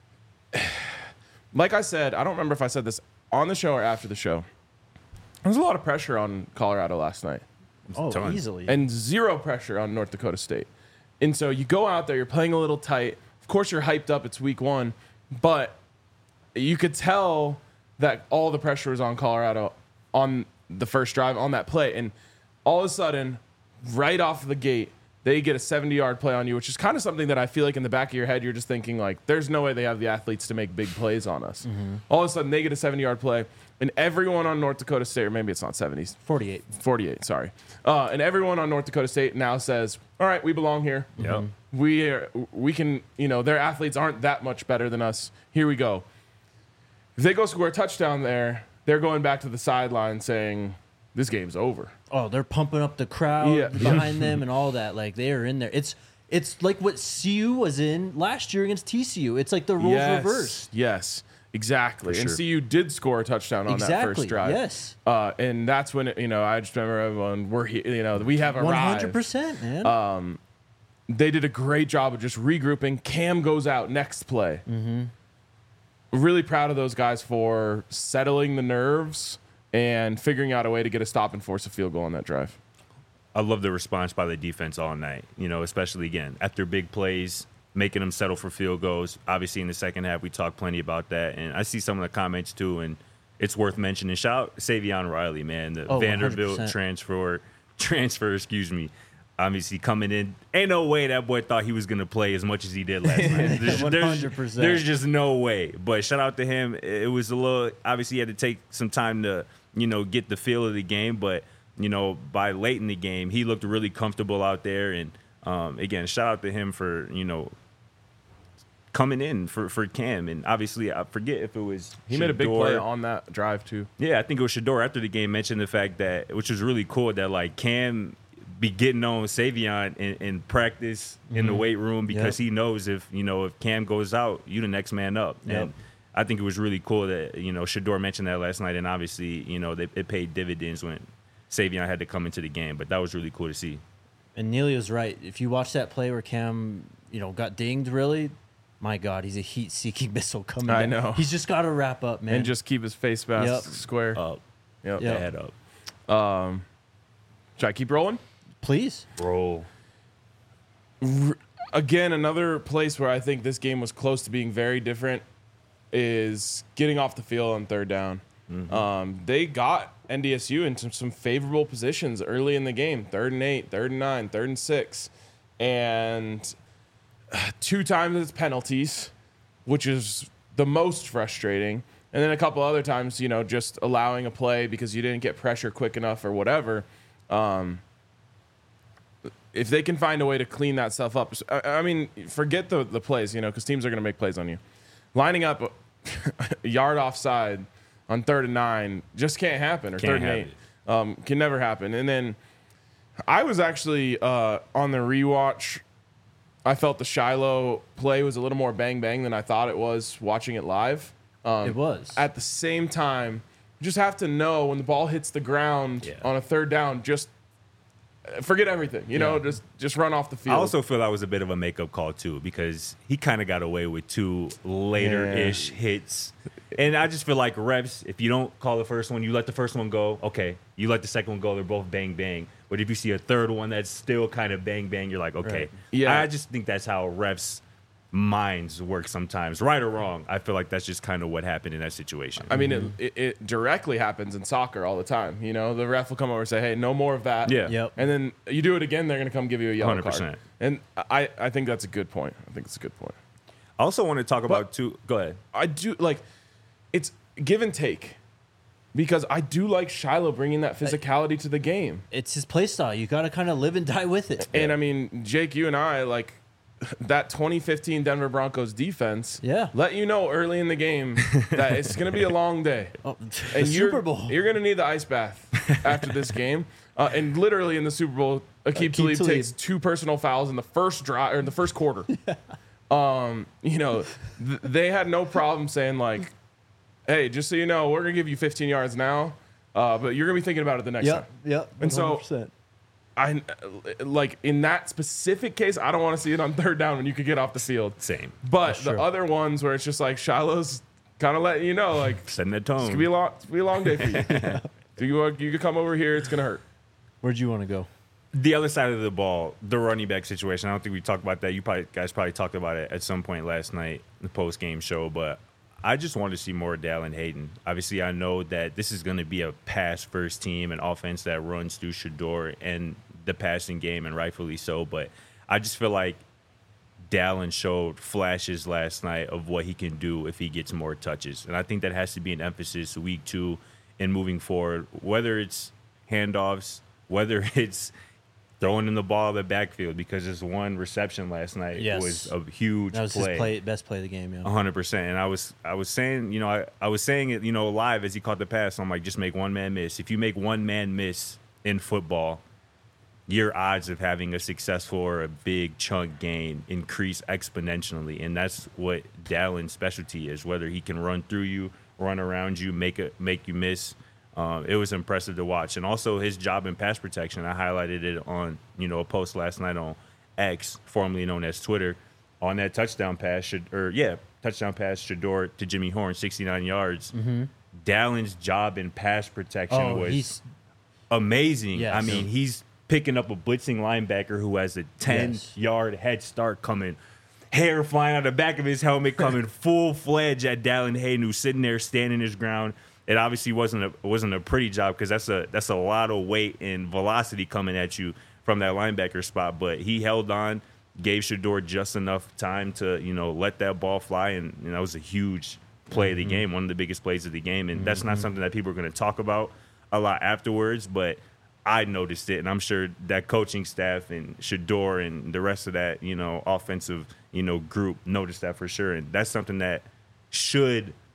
like I said, I don't remember if I said this on the show or after the show. There was a lot of pressure on Colorado last night. Oh, easily. And 0 pressure on North Dakota State. And so you go out there, you're playing a little tight. Of course, you're hyped up. It's week 1. But you could tell that all the pressure was on Colorado on the first drive, on that play. And all of a sudden, right off the gate, they get a 70-yard play on you, which is kind of something that I feel like in the back of your head, you're just thinking, like, there's no way they have the athletes to make big plays on us. Mm-hmm. All of a sudden, they get a 70-yard play. And everyone on North Dakota State, or maybe it's not 70s. 48, sorry. And everyone on North Dakota State now says, all right, we belong here. Yep. We can, their athletes aren't that much better than us. Here we go. If they go score a touchdown there, they're going back to the sideline saying, this game's over. Oh, they're pumping up the crowd behind them and all that. Like, they are in there. It's like what CU was in last year against TCU. It's like the roles reversed. Yes. Exactly. For and sure. CU did score a touchdown on that first drive. Yes. And that's when, I just remember everyone, we're here, we have arrived. 100%, man. They did a great job of just regrouping. Cam goes out next play. Mm-hmm. Really proud of those guys for settling the nerves and figuring out a way to get a stop and force a field goal on that drive. I love the response by the defense all night, especially, again, after big plays, making them settle for field goals. Obviously, in the second half, we talked plenty about that. And I see some of the comments, too, and it's worth mentioning. Shout out Savion Riley, man, the Vanderbilt 100%. transfer, obviously coming in. Ain't no way that boy thought he was going to play as much as he did last night. 100%. There's just no way. But shout out to him. It was a little – obviously, he had to take some time to, get the feel of the game. But, by late in the game, he looked really comfortable out there. And, again, shout out to him for, coming in for Cam. And obviously, I forget if it was He made a big play on that drive, too. Yeah, I think it was Shedeur after the game mentioned the fact that, which was really cool, that, like, Cam be getting on Savion in practice in the weight room because he knows if Cam goes out, you the next man up. Yep. And I think it was really cool that Shedeur mentioned that last night, and obviously it paid dividends when Savion had to come into the game. But that was really cool to see. And Neely was right. If you watch that play where Cam, got dinged, really, my God, he's a heat-seeking missile coming. I down. know. He's just got to wrap up, man. And just keep his face mask square. Up, Yep. Yep. head up, Should I keep rolling? Please. roll. Again, another place where I think this game was close to being very different is getting off the field on third down. They got NDSU into some favorable positions early in the game, 3rd and 8, 3rd and 9, 3rd and 6. And 2 times it's penalties, which is the most frustrating. And then a couple other times, just allowing a play because you didn't get pressure quick enough or whatever. If they can find a way to clean that stuff up, I mean, forget the plays, because teams are going to make plays on you. Lining up a yard offside on 3rd and 9 just can't happen, or 3rd and 8 can never happen. And then I was actually on the rewatch. I felt the Shiloh play was a little more bang bang than I thought it was watching it live. It was. At the same time, you just have to know when the ball hits the ground on a 3rd down, just forget everything. Just run off the field. I also feel that was a bit of a makeup call too, because he kind of got away with 2 later-ish hits. And I just feel like refs, if you don't call the first one, you let the first one go, okay. You let the second one go, they're both bang bang. But if you see a third one that's still kind of bang bang, you're like, okay. Right. Yeah. I just think that's how refs' minds work sometimes, right or wrong. I feel like that's just kind of what happened in that situation. I mean, it directly happens in soccer all the time. The ref will come over and say, hey, no more of that. Yeah. Yep. And then you do it again, they're going to come give you a yellow 100%. card. And I think that's a good point. I think it's a good point. I also want to talk about two. Go ahead. I do, it's give and take. Because I do like Shiloh bringing that physicality to the game. It's his play style. You got to kind of live and die with it. And I mean, Jake, you and I, that 2015 Denver Broncos defense let you know early in the game that it's going to be a long day. Oh, And Super Bowl. You're going to need the ice bath after this game. And literally in the Super Bowl, Aqib Talib Talib. takes 2 personal fouls in the first drive or in the first quarter. They had no problem saying hey, just so you know, we're going to give you 15 yards now, but you're going to be thinking about it the next time. Yep. And so 100%. I in that specific case, I don't want to see it on 3rd down when you could get off the field. Same. But That's the true. other ones where it's just Shiloh's kind of letting you know, Setting the it's gonna tone. be a long day for you. You could come over here, it's gonna hurt. Where'd you want to go? The other side of the ball, the running back situation. I don't think we talked about that. You guys probably talked about it at some point last night in the post game show, but I just want to see more Dallin Hayden. Obviously, I know that this is going to be a pass-first team, an offense that runs through Shedeur and the passing game, and rightfully so. But I just feel like Dallin showed flashes last night of what he can do if he gets more touches. And I think that has to be an emphasis week 2 and moving forward, whether it's handoffs, whether it's throwing in the ball in the backfield, because his one reception last night was a huge That was play. his best play of the game, 100%. And I was saying, I was saying it, live as he caught the pass. I'm like, just make one man miss. If you make one man miss in football, your odds of having a successful or a big chunk gain increase exponentially. And that's what Dallin's specialty is, whether he can run through you, run around you, make you miss. It was impressive to watch. And also his job in pass protection. I highlighted it on, a post last night on X, formerly known as Twitter, on that touchdown pass. Touchdown pass, Shedeur to Jimmy Horn, 69 yards. Dallin's job in pass protection was amazing. Yes. I mean, he's picking up a blitzing linebacker who has a 10-yard head start coming, hair flying out the back of his helmet, coming full-fledged at Dallin Hayden, who's sitting there standing his ground. It obviously wasn't a pretty job, because that's a lot of weight and velocity coming at you from that linebacker spot. But he held on, gave Shedeur just enough time to let that ball fly, and that was a huge play of the game, one of the biggest plays of the game. And that's not something that people are going to talk about a lot afterwards, but I noticed it, and I'm sure that coaching staff and Shedeur and the rest of that offensive group noticed that for sure. And that's something that should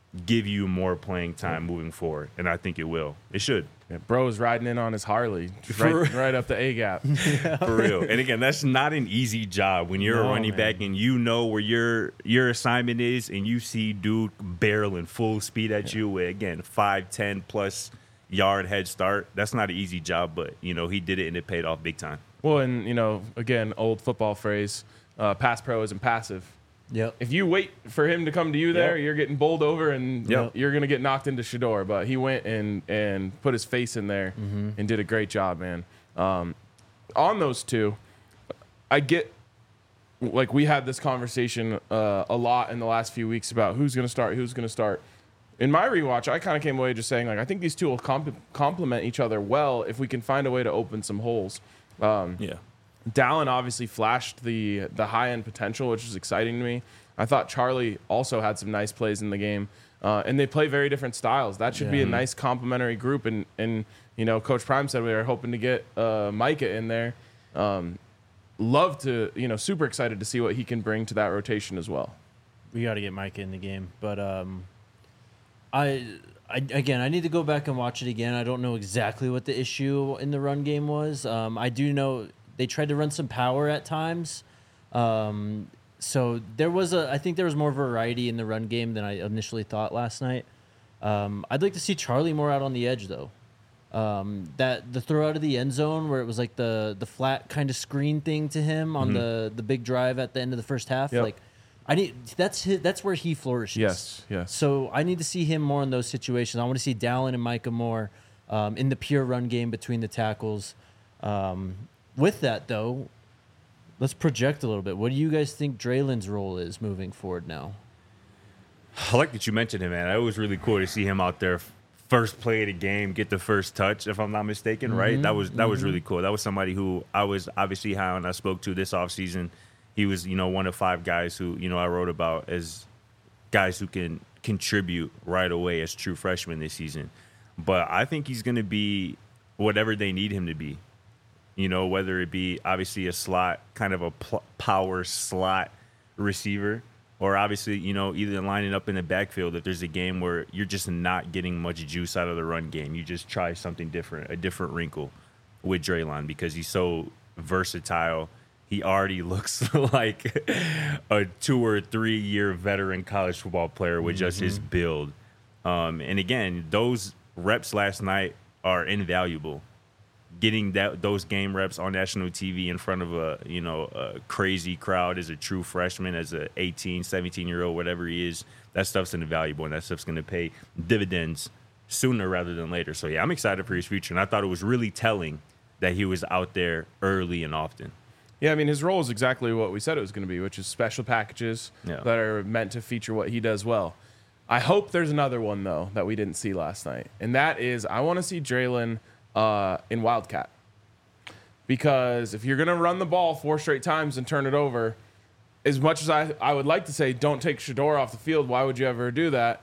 give you more playing time moving forward, and I think it will. It should. Yeah, bro's riding in on his Harley, right up the A gap. For real. And again, that's not an easy job when you're a running back and you know where your assignment is, and you see dude barreling full speed at you with, again, 5-10 plus yard head start. That's not an easy job, but he did it and it paid off big time. Well, and again, old football phrase, pass pro isn't passive. Yep. If you wait for him to come to you there, you're getting bowled over and you're going to get knocked into Shedeur. But he went and put his face in there and did a great job, man. On those two, I get, like, we had this conversation a lot in the last few weeks about who's going to start. In my rewatch, I kind of came away just saying, like, I think these two will complement each other well if we can find a way to open some holes. Dallin obviously flashed the high-end potential, which is exciting to me. I thought Charlie also had some nice plays in the game. And they play very different styles. That should be a nice complementary group. And Coach Prime said we were hoping to get Micah in there. Love to, super excited to see what he can bring to that rotation as well. We got to get Micah in the game. But I need to go back and watch it again. I don't know exactly what the issue in the run game was. I do know they tried to run some power at times. So I think there was more variety in the run game than I initially thought last night. I'd like to see Charlie more out on the edge, though. That the throw out of the end zone where it was like the flat kind of screen thing to him on the big drive at the end of the first half. Yep. Like, that's where he flourishes. Yes. So I need to see him more in those situations. I want to see Dallin and Micah more in the pure run game between the tackles. With that, though, let's project a little bit. What do you guys think Draylen's role is moving forward now? I like that you mentioned him, man. It was really cool to see him out there, first play of the game, get the first touch, if I'm not mistaken, right? That was really cool. That was somebody who I was obviously high on. I spoke to this offseason. He was, one of 5 guys who, I wrote about as guys who can contribute right away as true freshmen this season. But I think he's going to be whatever they need him to be. Whether it be obviously a slot, kind of a power slot receiver, or obviously, either lining up in the backfield if there's a game where you're just not getting much juice out of the run game. You just try something different, a different wrinkle with Draylon because he's so versatile. He already looks like a 2 or 3 year veteran college football player with just his build. And again, those reps last night are invaluable. Getting those game reps on national TV in front of a crazy crowd as a true freshman, as a 18, 17-year-old, whatever he is, that stuff's invaluable, and that stuff's going to pay dividends sooner rather than later. So, yeah, I'm excited for his future, and I thought it was really telling that he was out there early and often. Yeah, I mean, his role is exactly what we said it was going to be, which is special packages that are meant to feature what he does well. I hope there's another one, though, that we didn't see last night, and that is I want to see Draylen in Wildcat. Because if you're going to run the ball 4 straight times and turn it over, as much as I would like to say don't take Shedeur off the field, why would you ever do that?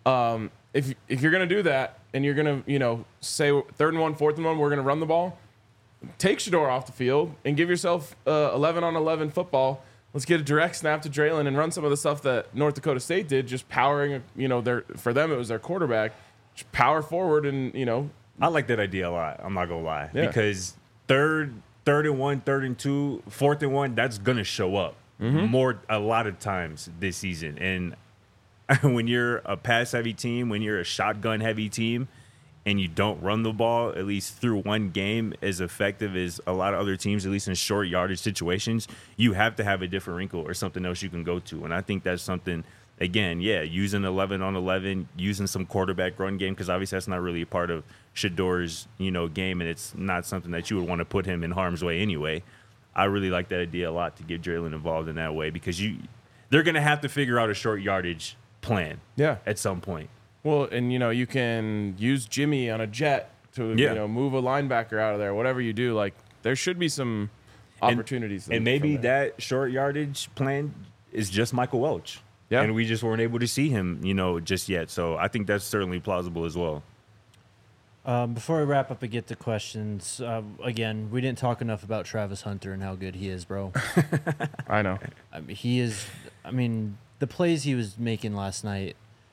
If you're going to do that and you're going to, say 3rd and 1, 4th and 1, we're going to run the ball, take Shedeur off the field and give yourself 11-on-11 football. Let's get a direct snap to Draylen and run some of the stuff that North Dakota State did, just powering, for them it was their quarterback, just power forward and, I like that idea a lot. I'm not gonna lie, because third and 1, 3rd and 2, 4th and 1, that's gonna show up a lot of times this season. And when you're a pass-heavy team, when you're a shotgun-heavy team, and you don't run the ball at least through one game as effective as a lot of other teams, at least in short yardage situations, you have to have a different wrinkle or something else you can go to. And I think that's something. Again, using 11-on-11, using some quarterback run game, because obviously that's not really a part of Shedeur's, game, and it's not something that you would want to put him in harm's way anyway. I really like that idea a lot to get Draylen involved in that way because they're going to have to figure out a short yardage plan at some point. Well, and, you can use Jimmy on a jet to, move a linebacker out of there. Whatever you do, like, there should be some opportunities. And maybe that short yardage plan is just Michael Welch. Yeah. And we just weren't able to see him, just yet. So I think that's certainly plausible as well. Before I wrap up and get to questions, again, we didn't talk enough about Travis Hunter and how good he is, bro. I know. The plays he was making last night,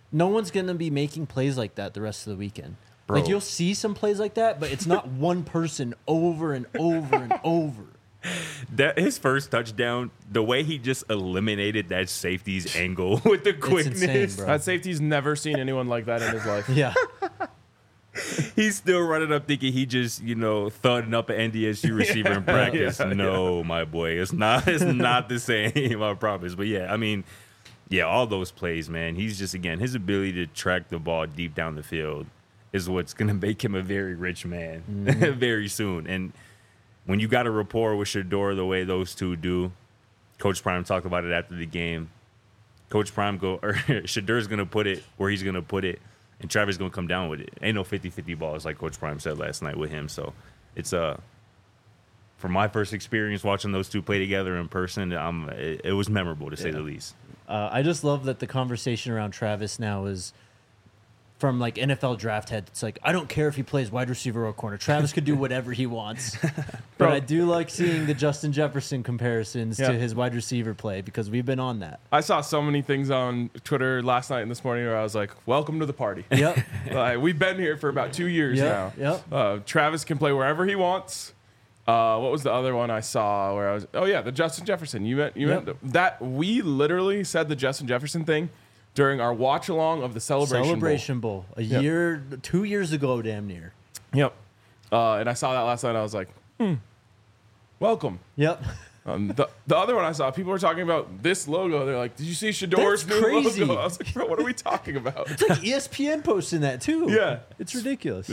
no one's going to be making plays like that the rest of the weekend. Bro. Like, you'll see some plays like that, but it's not one person over and over and over. That his first touchdown, the way he just eliminated that safety's angle with the quickness. insane, bro. That safety's never seen anyone like that in his life. Yeah. He's still running up thinking he just, thudding up an NDSU receiver in practice. No, my boy. It's not the same, I promise. But yeah, I mean, all those plays, man. He's just, again, his ability to track the ball deep down the field is what's going to make him a very rich man very soon. And when you got a rapport with Shedeur the way those two do, Coach Prime talked about it after the game. Coach Prime Shedeur's going to put it where he's going to put it, and Travis going to come down with it. Ain't no 50-50 balls like Coach Prime said last night with him. So it's from my first experience watching those two play together in person, it was memorable to say the least. I just love that the conversation around Travis now is from like NFL draft head. It's like, I don't care if he plays wide receiver or corner. Travis could do whatever he wants. But I do like seeing the Justin Jefferson comparisons to his wide receiver play because we've been on that. I saw so many things on Twitter last night and this morning where I was like, welcome to the party. Yep. We've been here for about 2 years now. Yep. Travis can play wherever he wants. What was the other one I saw where I was? Oh, yeah, the Justin Jefferson. You meant that we literally said the Justin Jefferson thing during our watch along of the Celebration Bowl. A year, 2 years ago, damn near. Yep. And I saw that last night. I was like, welcome. Yep. The other one I saw, people were talking about this logo. They're like, did you see Shedeur's That's new crazy. logo? I was like, bro, what are we talking about? It's like ESPN posting that too. Yeah. It's ridiculous.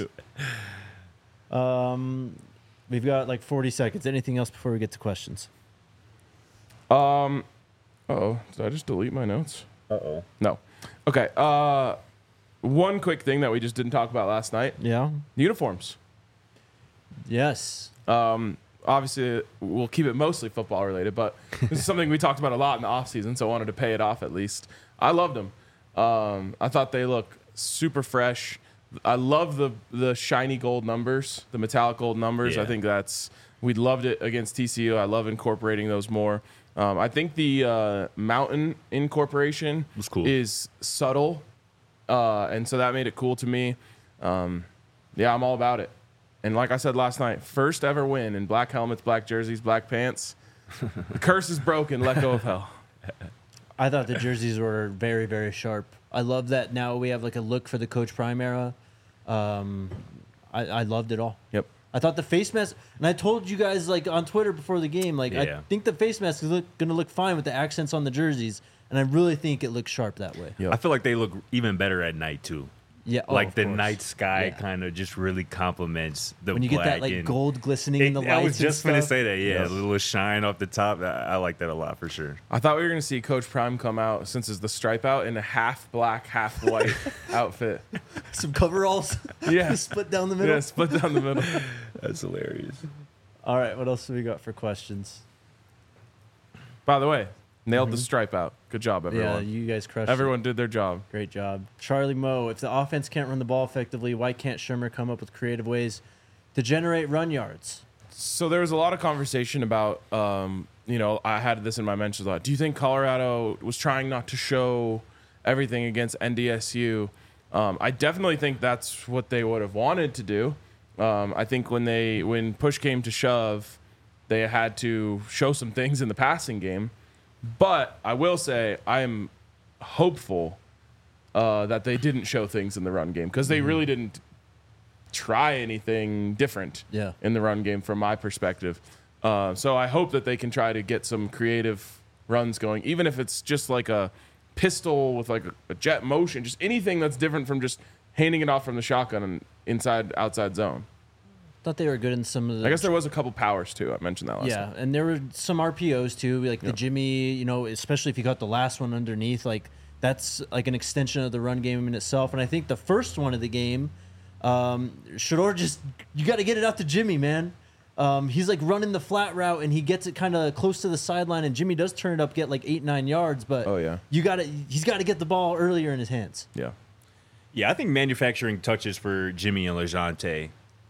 We've got like 40 seconds. Anything else before we get to questions? Uh-oh. Did I just delete my notes? Uh-oh. No. Okay. One quick thing that we just didn't talk about last night. Yeah. Uniforms. Yes. Obviously, we'll keep it mostly football related, but this is something we talked about a lot in the offseason, so I wanted to pay it off at least. I loved them. I thought they look super fresh. I love the shiny gold numbers, the metallic gold numbers. Yeah. I think we loved it against TCU. I love incorporating those more. I think the mountain incorporation was cool. Is subtle, and so that made it cool to me. I'm all about it. And like I said last night, first ever win in black helmets, black jerseys, black pants. The curse is broken. Let go of hell. I thought the jerseys were very, very sharp. I love that now we have like a look for the Coach Prime era. I loved it all. Yep. I thought the face mask, and I told you guys like on Twitter before the game, like I think the face mask is going to look fine with the accents on the jerseys, and I really think it looks sharp that way. Yep. I feel like they look even better at night too. Yeah, like the course. night sky kind of just really complements the when you black get that like and gold glistening in the lights. I was just going to say that. Yeah, a little shine off the top. I like that a lot for sure. I thought we were going to see Coach Prime come out, since it's the stripe out, in a half black, half white outfit. Some coveralls. Yeah. Split down the middle. Yeah, split down the middle. That's hilarious. All right, what else do we got for questions? By the way, nailed the stripe out. Good job, everyone. Yeah, you guys crushed Everyone it. did their job. Great job. Charlie Moe, if the offense can't run the ball effectively, why can't Shermer come up with creative ways to generate run yards? So there was a lot of conversation about, I had this in my mentions a lot. Do you think Colorado was trying not to show everything against NDSU? I definitely think that's what they would have wanted to do. I think when push came to shove, they had to show some things in the passing game. But I will say I am hopeful that they didn't show things in the run game, because they really didn't try anything different in the run game from my perspective. So I hope that they can try to get some creative runs going, even if it's just like a pistol with like a jet motion, just anything that's different from just handing it off from the shotgun and outside zone. Thought they were good in some of the. I guess there was a couple powers too. I mentioned that last time. Yeah, and there were some RPOs too, like the Jimmy. Especially if you got the last one underneath, like that's like an extension of the run game in itself. And I think the first one of the game, Shedeur you got to get it out to Jimmy, man. He's like running the flat route and he gets it kind of close to the sideline, and Jimmy does turn it up, get like 8-9 yards. But he's got to get the ball earlier in his hands. Yeah. Yeah, I think manufacturing touches for Jimmy and LeJounte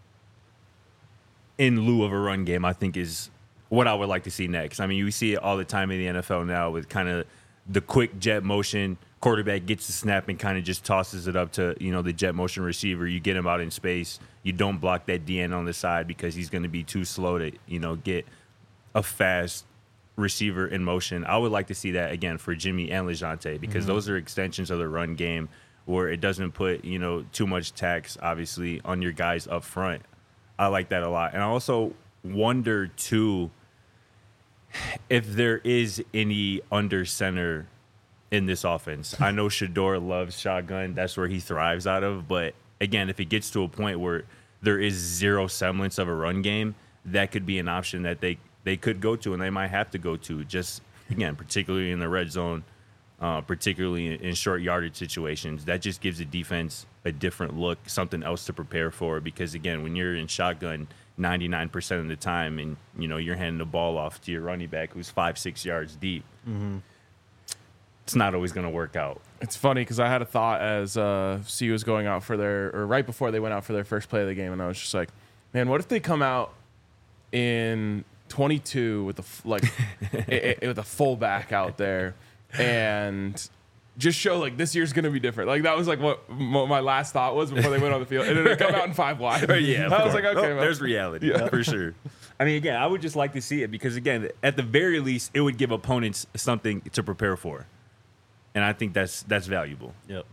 in lieu of a run game, I think, is what I would like to see next. I mean, you see it all the time in the NFL now with kind of the quick jet motion. Quarterback gets the snap and kind of just tosses it up to, the jet motion receiver. You get him out in space. You don't block that DN on the side because he's going to be too slow to, get a fast receiver in motion. I would like to see that again for Jimmy and LeJounte because those are extensions of the run game where it doesn't put, too much tax, obviously, on your guys up front. I like that a lot. And I also wonder, too, if there is any under center in this offense. I know Shedeur loves shotgun. That's where he thrives out of. But, again, if it gets to a point where there is zero semblance of a run game, that could be an option that they could go to and they might have to go to. Just, again, particularly in the red zone, particularly in short yardage situations. That just gives the defense a different look, something else to prepare for. Because, again, when you're in shotgun 99% of the time and, you're handing the ball off to your running back who's 5-6 yards deep, it's not always going to work out. It's funny because I had a thought as CU was going out for or right before they went out for their first play of the game, and I was just like, man, what if they come out in 22 with with a fullback out there and just show like this year's going to be different. Like that was like what my last thought was before they went on the field, and then they come out in 5 wide. Yeah, I was like, okay, well, there's reality for sure. I mean, again, I would just like to see it because, again, at the very least, it would give opponents something to prepare for. And I think that's valuable. Yep.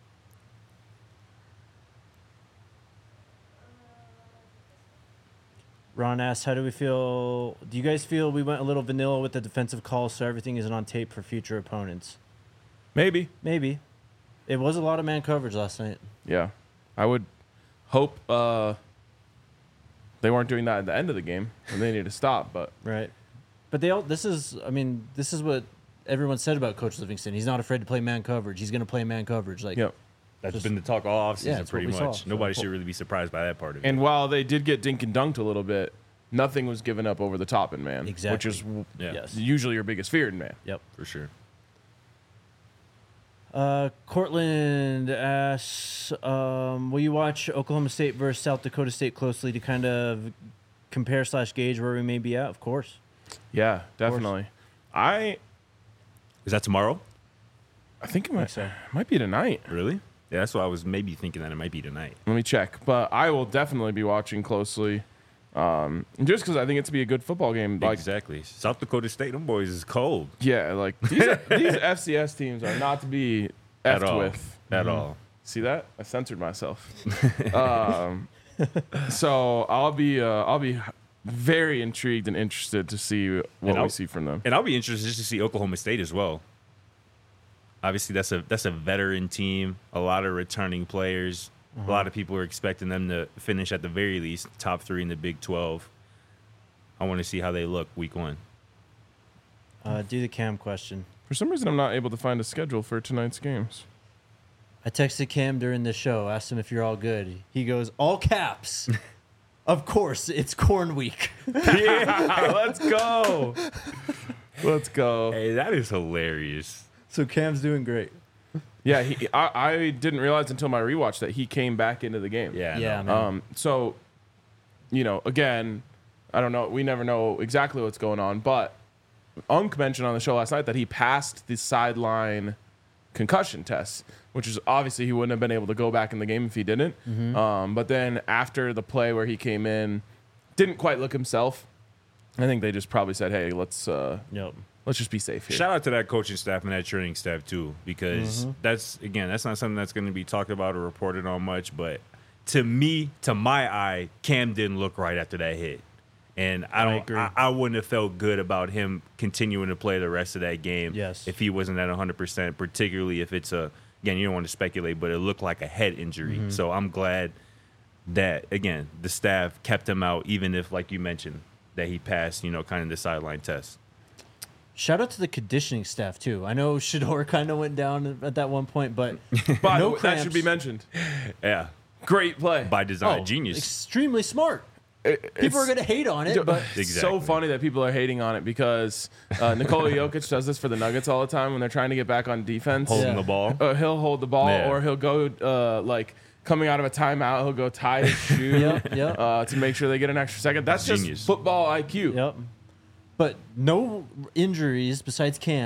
Ron asks, how do we feel? Do you guys feel we went a little vanilla with the defensive calls so everything isn't on tape for future opponents? Maybe. It was a lot of man coverage last night. Yeah. I would hope they weren't doing that at the end of the game and they need to stop, but Right. But this is what everyone said about Coach Livingston. He's not afraid to play man coverage. He's going to play man coverage. Like, yep. That's been the talk all offseason, it's pretty what we much. saw. Nobody should really be surprised by that part of it. And while they did get dink and dunked a little bit, nothing was given up over the top in man. Exactly. Which is Yes. usually your biggest fear in man. Yep. For sure. Cortland asks, will you watch Oklahoma State versus South Dakota State closely to kind of compare/gauge where we may be at? Of course. Yeah, definitely. Is that tomorrow? I think it so. might be tonight. Really? Yeah, that's why I was maybe thinking that it might be tonight. Let me check. But I will definitely be watching closely. Just because I think it's to be a good football game. Like, exactly. South Dakota State, them boys is cold. yeah, like these FCS teams are not to be At effed all. with. At all. See that? I censored myself. So I'll be very intrigued and interested to see what we see from them. And I'll be interested just to see Oklahoma State as well. Obviously, that's a veteran team, a lot of returning players. A lot of people are expecting them to finish at the very least top 3 in the Big 12. I want to see how they look week 1. Do the Cam question. For some reason, I'm not able to find a schedule for tonight's games. I texted Cam during the show, asked him if you're all good. He goes, all caps. Of course, it's Corn Week. Yeah, let's go. Let's go. Hey, that is hilarious. So Cam's doing great. Yeah, I didn't realize until my rewatch that he came back into the game. Yeah, Yeah, no. man. So, again, I don't know. We never know exactly what's going on, but Unk mentioned on the show last night that he passed the sideline concussion test, which is obviously he wouldn't have been able to go back in the game if he didn't. But then after the play where he came in, didn't quite look himself. I think they just probably said, "Hey, let's just be safe here." Shout out to that coaching staff and that training staff too, because that's not something that's going to be talked about or reported on much. But to my eye, Cam didn't look right after that hit, and I wouldn't have felt good about him continuing to play the rest of that game. Yes. If he wasn't at 100%, particularly if it's again, you don't want to speculate, but it looked like a head injury. So I'm glad that again the staff kept him out, even if, like you mentioned, that he passed, kind of the sideline test. Shout out to the conditioning staff, too. I know Shedeur kind of went down at that one point, but But no that cramps. should be mentioned. Yeah, Great play. by design, Oh, genius. extremely smart. It's People are going to hate on it, but so Exactly. funny that people are hating on it because Nikola Jokic does this for the Nuggets all the time when they're trying to get back on defense. Holding Yeah. the ball. He'll hold the ball, Yeah. or he'll go coming out of a timeout. He'll go tie his shoe Yep. to make sure they get an extra second. That's Genius. just football IQ. Yep. But no injuries besides Cam.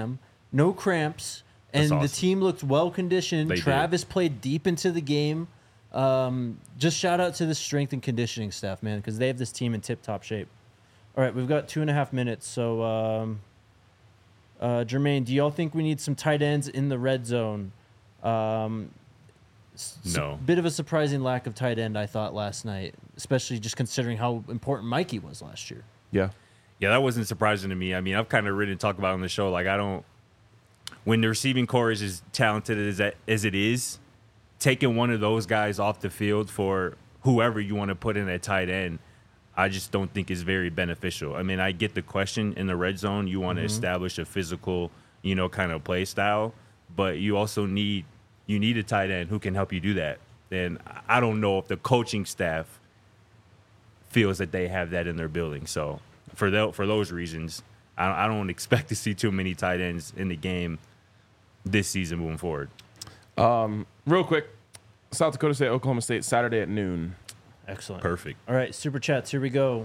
no cramps, and That's the awesome. team looked well conditioned. They did. Travis played deep into the game. Just shout out to the strength and conditioning staff, man, because they have this team in tip-top shape. All right, we've got 2.5 minutes, so Jermaine, do y'all think we need some tight ends in the red zone? No. Bit of a surprising lack of tight end, I thought, last night, especially just considering how important Mikey was last year. Yeah. Yeah, that wasn't surprising to me. I mean, I've kind of written and talked about it on the show. Like, when the receiving core is as talented as it is, taking one of those guys off the field for whoever you want to put in at tight end, I just don't think is very beneficial. I mean, I get the question in the red zone. You want to establish a physical, kind of play style, but you also need a tight end who can help you do that. And I don't know if the coaching staff feels that they have that in their building. So for those reasons, I don't expect to see too many tight ends in the game this season moving forward. Real quick, South Dakota State, Oklahoma State, Saturday at noon. Excellent. Perfect. All right, super chats. Here we go.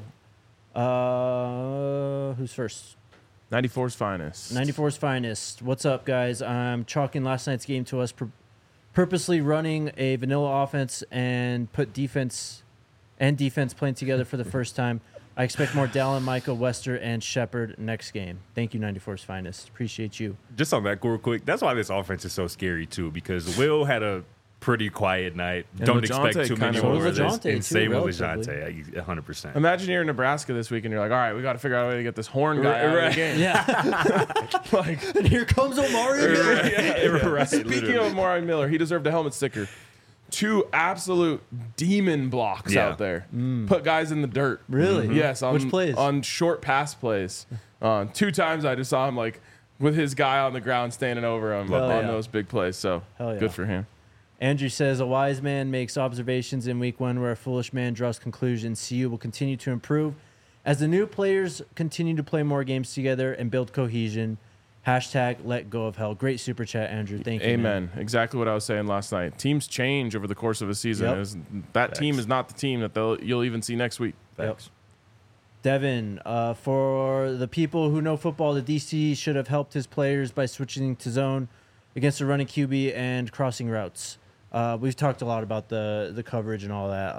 Who's first? 94's finest. 94's finest. What's up, guys? I'm chalking last night's game to us purposely running a vanilla offense and put defense playing together for the first time. I expect more Dallin, Micah, Wester, and Shepard next game. Thank you, 94's finest. Appreciate you. Just on that real quick, that's why this offense is so scary too, because Will had a pretty quiet night. And Don't LeJohn expect too many kinda more was. of this. LeJohn, And same too, with relatively. LeJohn, 100%. Imagine you're in Nebraska this week and you're like, all right, we got to figure out a way to get this horn guy out of the game. Yeah. Like, And here comes Omari. Right, speaking literally. of Amari Miller, he deserved a helmet sticker. 2 absolute demon blocks Yeah. out there. Put guys in the dirt. Really? Yes. On, Which plays? On short pass plays. 2 times I just saw him like with his guy on the ground standing over him Hell on yeah. those big plays. So Hell yeah. good for him. Andrew says, a wise man makes observations in week 1 where a foolish man draws conclusions. CU will continue to improve as the new players continue to play more games together and build cohesion. Hashtag let go of hell. Great super chat, Andrew. Thank you. Amen. Exactly what I was saying last night. Teams change over the course of a season. Yep. That team is not the team that you'll even see next week. Thanks. Devin, for the people who know football, the DC should have helped his players by switching to zone against the running QB and crossing routes. We've talked a lot about the coverage and all that.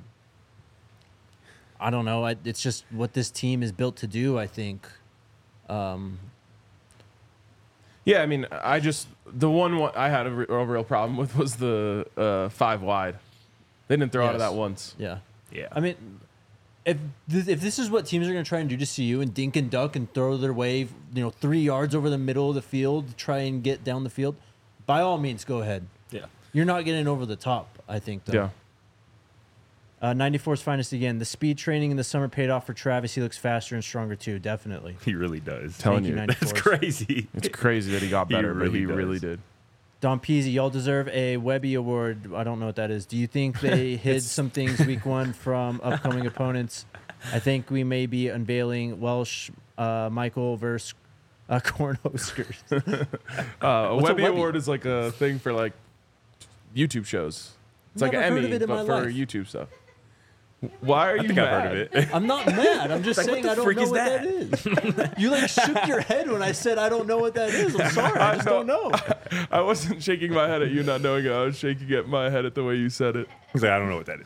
I don't know. It's just what this team is built to do, I think. Yeah, I mean, the one I had a real problem with was the 5 wide. They didn't throw out of Yes. that once. Yeah. Yeah. I mean, if this is what teams are going to try and do to CU and dink and duck and throw their way, 3 yards over the middle of the field, try and get down the field, by all means, go ahead. Yeah. You're not getting over the top, I think, though. Yeah. 94's finest again. The speed training in the summer paid off for Travis. He looks faster and stronger, too. Definitely. He really does. Telling Thank you, you. 94's. That's crazy. It's crazy that he got He better, but really he does. really did. Don Peasy, y'all deserve a Webby Award. I don't know what that is. Do you think they hid some things week 1 from upcoming opponents? I think we may be unveiling Welsh Michael versus Cornhuskers. A What's a Webby Webby? Award is like a thing for like YouTube shows. It's like Never an heard Emmy, of it in but my for life. YouTube stuff. Why are you I think mad? I've heard of it. I'm not mad. I'm just Like, what saying the I don't freak know is what that is. You like shook your head when I said I don't know what that is. I'm sorry. I just don't know. I wasn't shaking my head at you not knowing it. I was shaking my head at the way you said it. He's like, I don't know what that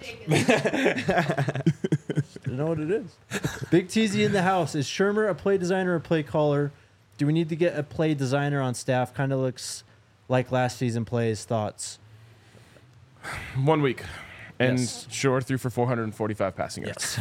is. You know what it is. Big TZ in the house. Is Shermer a play designer or play caller? Do we need to get a play designer on staff? Kind of looks like last season plays. Thoughts? 1 week. And Yes. Shore threw for 445 passing yards.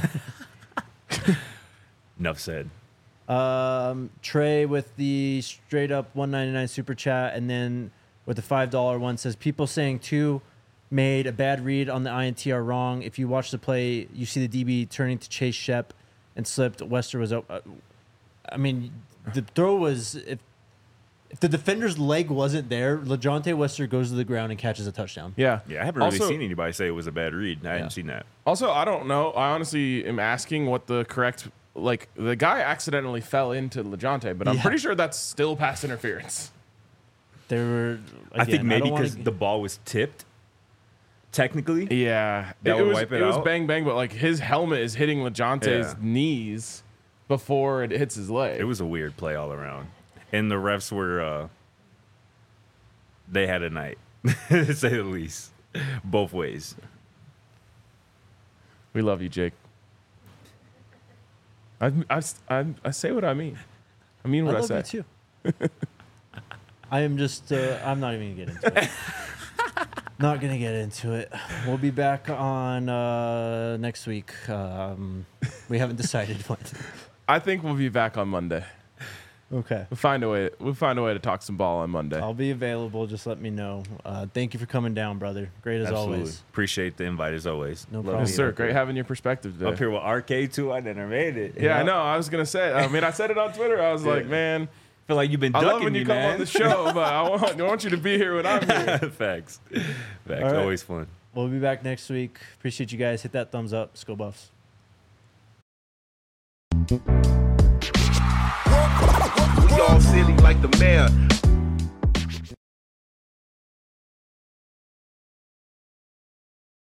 Enough said. Trey with the straight up $1.99 super chat, and then with the $5 one says people saying 2 made a bad read on the INT are wrong. If you watch the play, you see the DB turning to chase Shep and slipped. Wester was I mean, the throw was if the defender's leg wasn't there, LeJohntay Wester goes to the ground and catches a touchdown. Yeah. Yeah, I haven't really Also- seen anybody say it was a bad read. I Yeah. hadn't seen that. Also, I don't know. I honestly am asking what the correct, like, the guy accidentally fell into LeJohntay, but I'm Yeah. pretty sure that's still pass interference. There were. I think again, maybe don't wanna- because the ball was tipped, technically. Yeah. That would wipe it was out? bang, bang, but, like, his helmet is hitting LeJohntay's Yeah. knees before it hits his leg. It was a weird play all around. and the refs were they had a night, to say the least, both ways. We love you, Jake. I say what I mean. I mean what I say. I love you too. I am just. I'm not even gonna get into it. Not gonna get into it. We'll be back on next week. We haven't decided when. I think we'll be back on Monday. Okay. We'll find a way to talk some ball on Monday. I'll be available. Just let me know. Thank you for coming down, brother. Great as Absolutely. always. Appreciate the invite as always. No Love problem. Yes, being sir. up here. Great having your perspective today. Up here with RK too. I never made it. Yeah, I know. I was gonna say. I mean, I said it on Twitter. I was like, man, Feel like you've been I ducking love when me, you come man. on the show, but I want you to be here when I'm here. Facts. right. Always fun. We'll be back next week. Appreciate you guys. Hit that thumbs up. Let's go Buffs. We all silly like the mayor.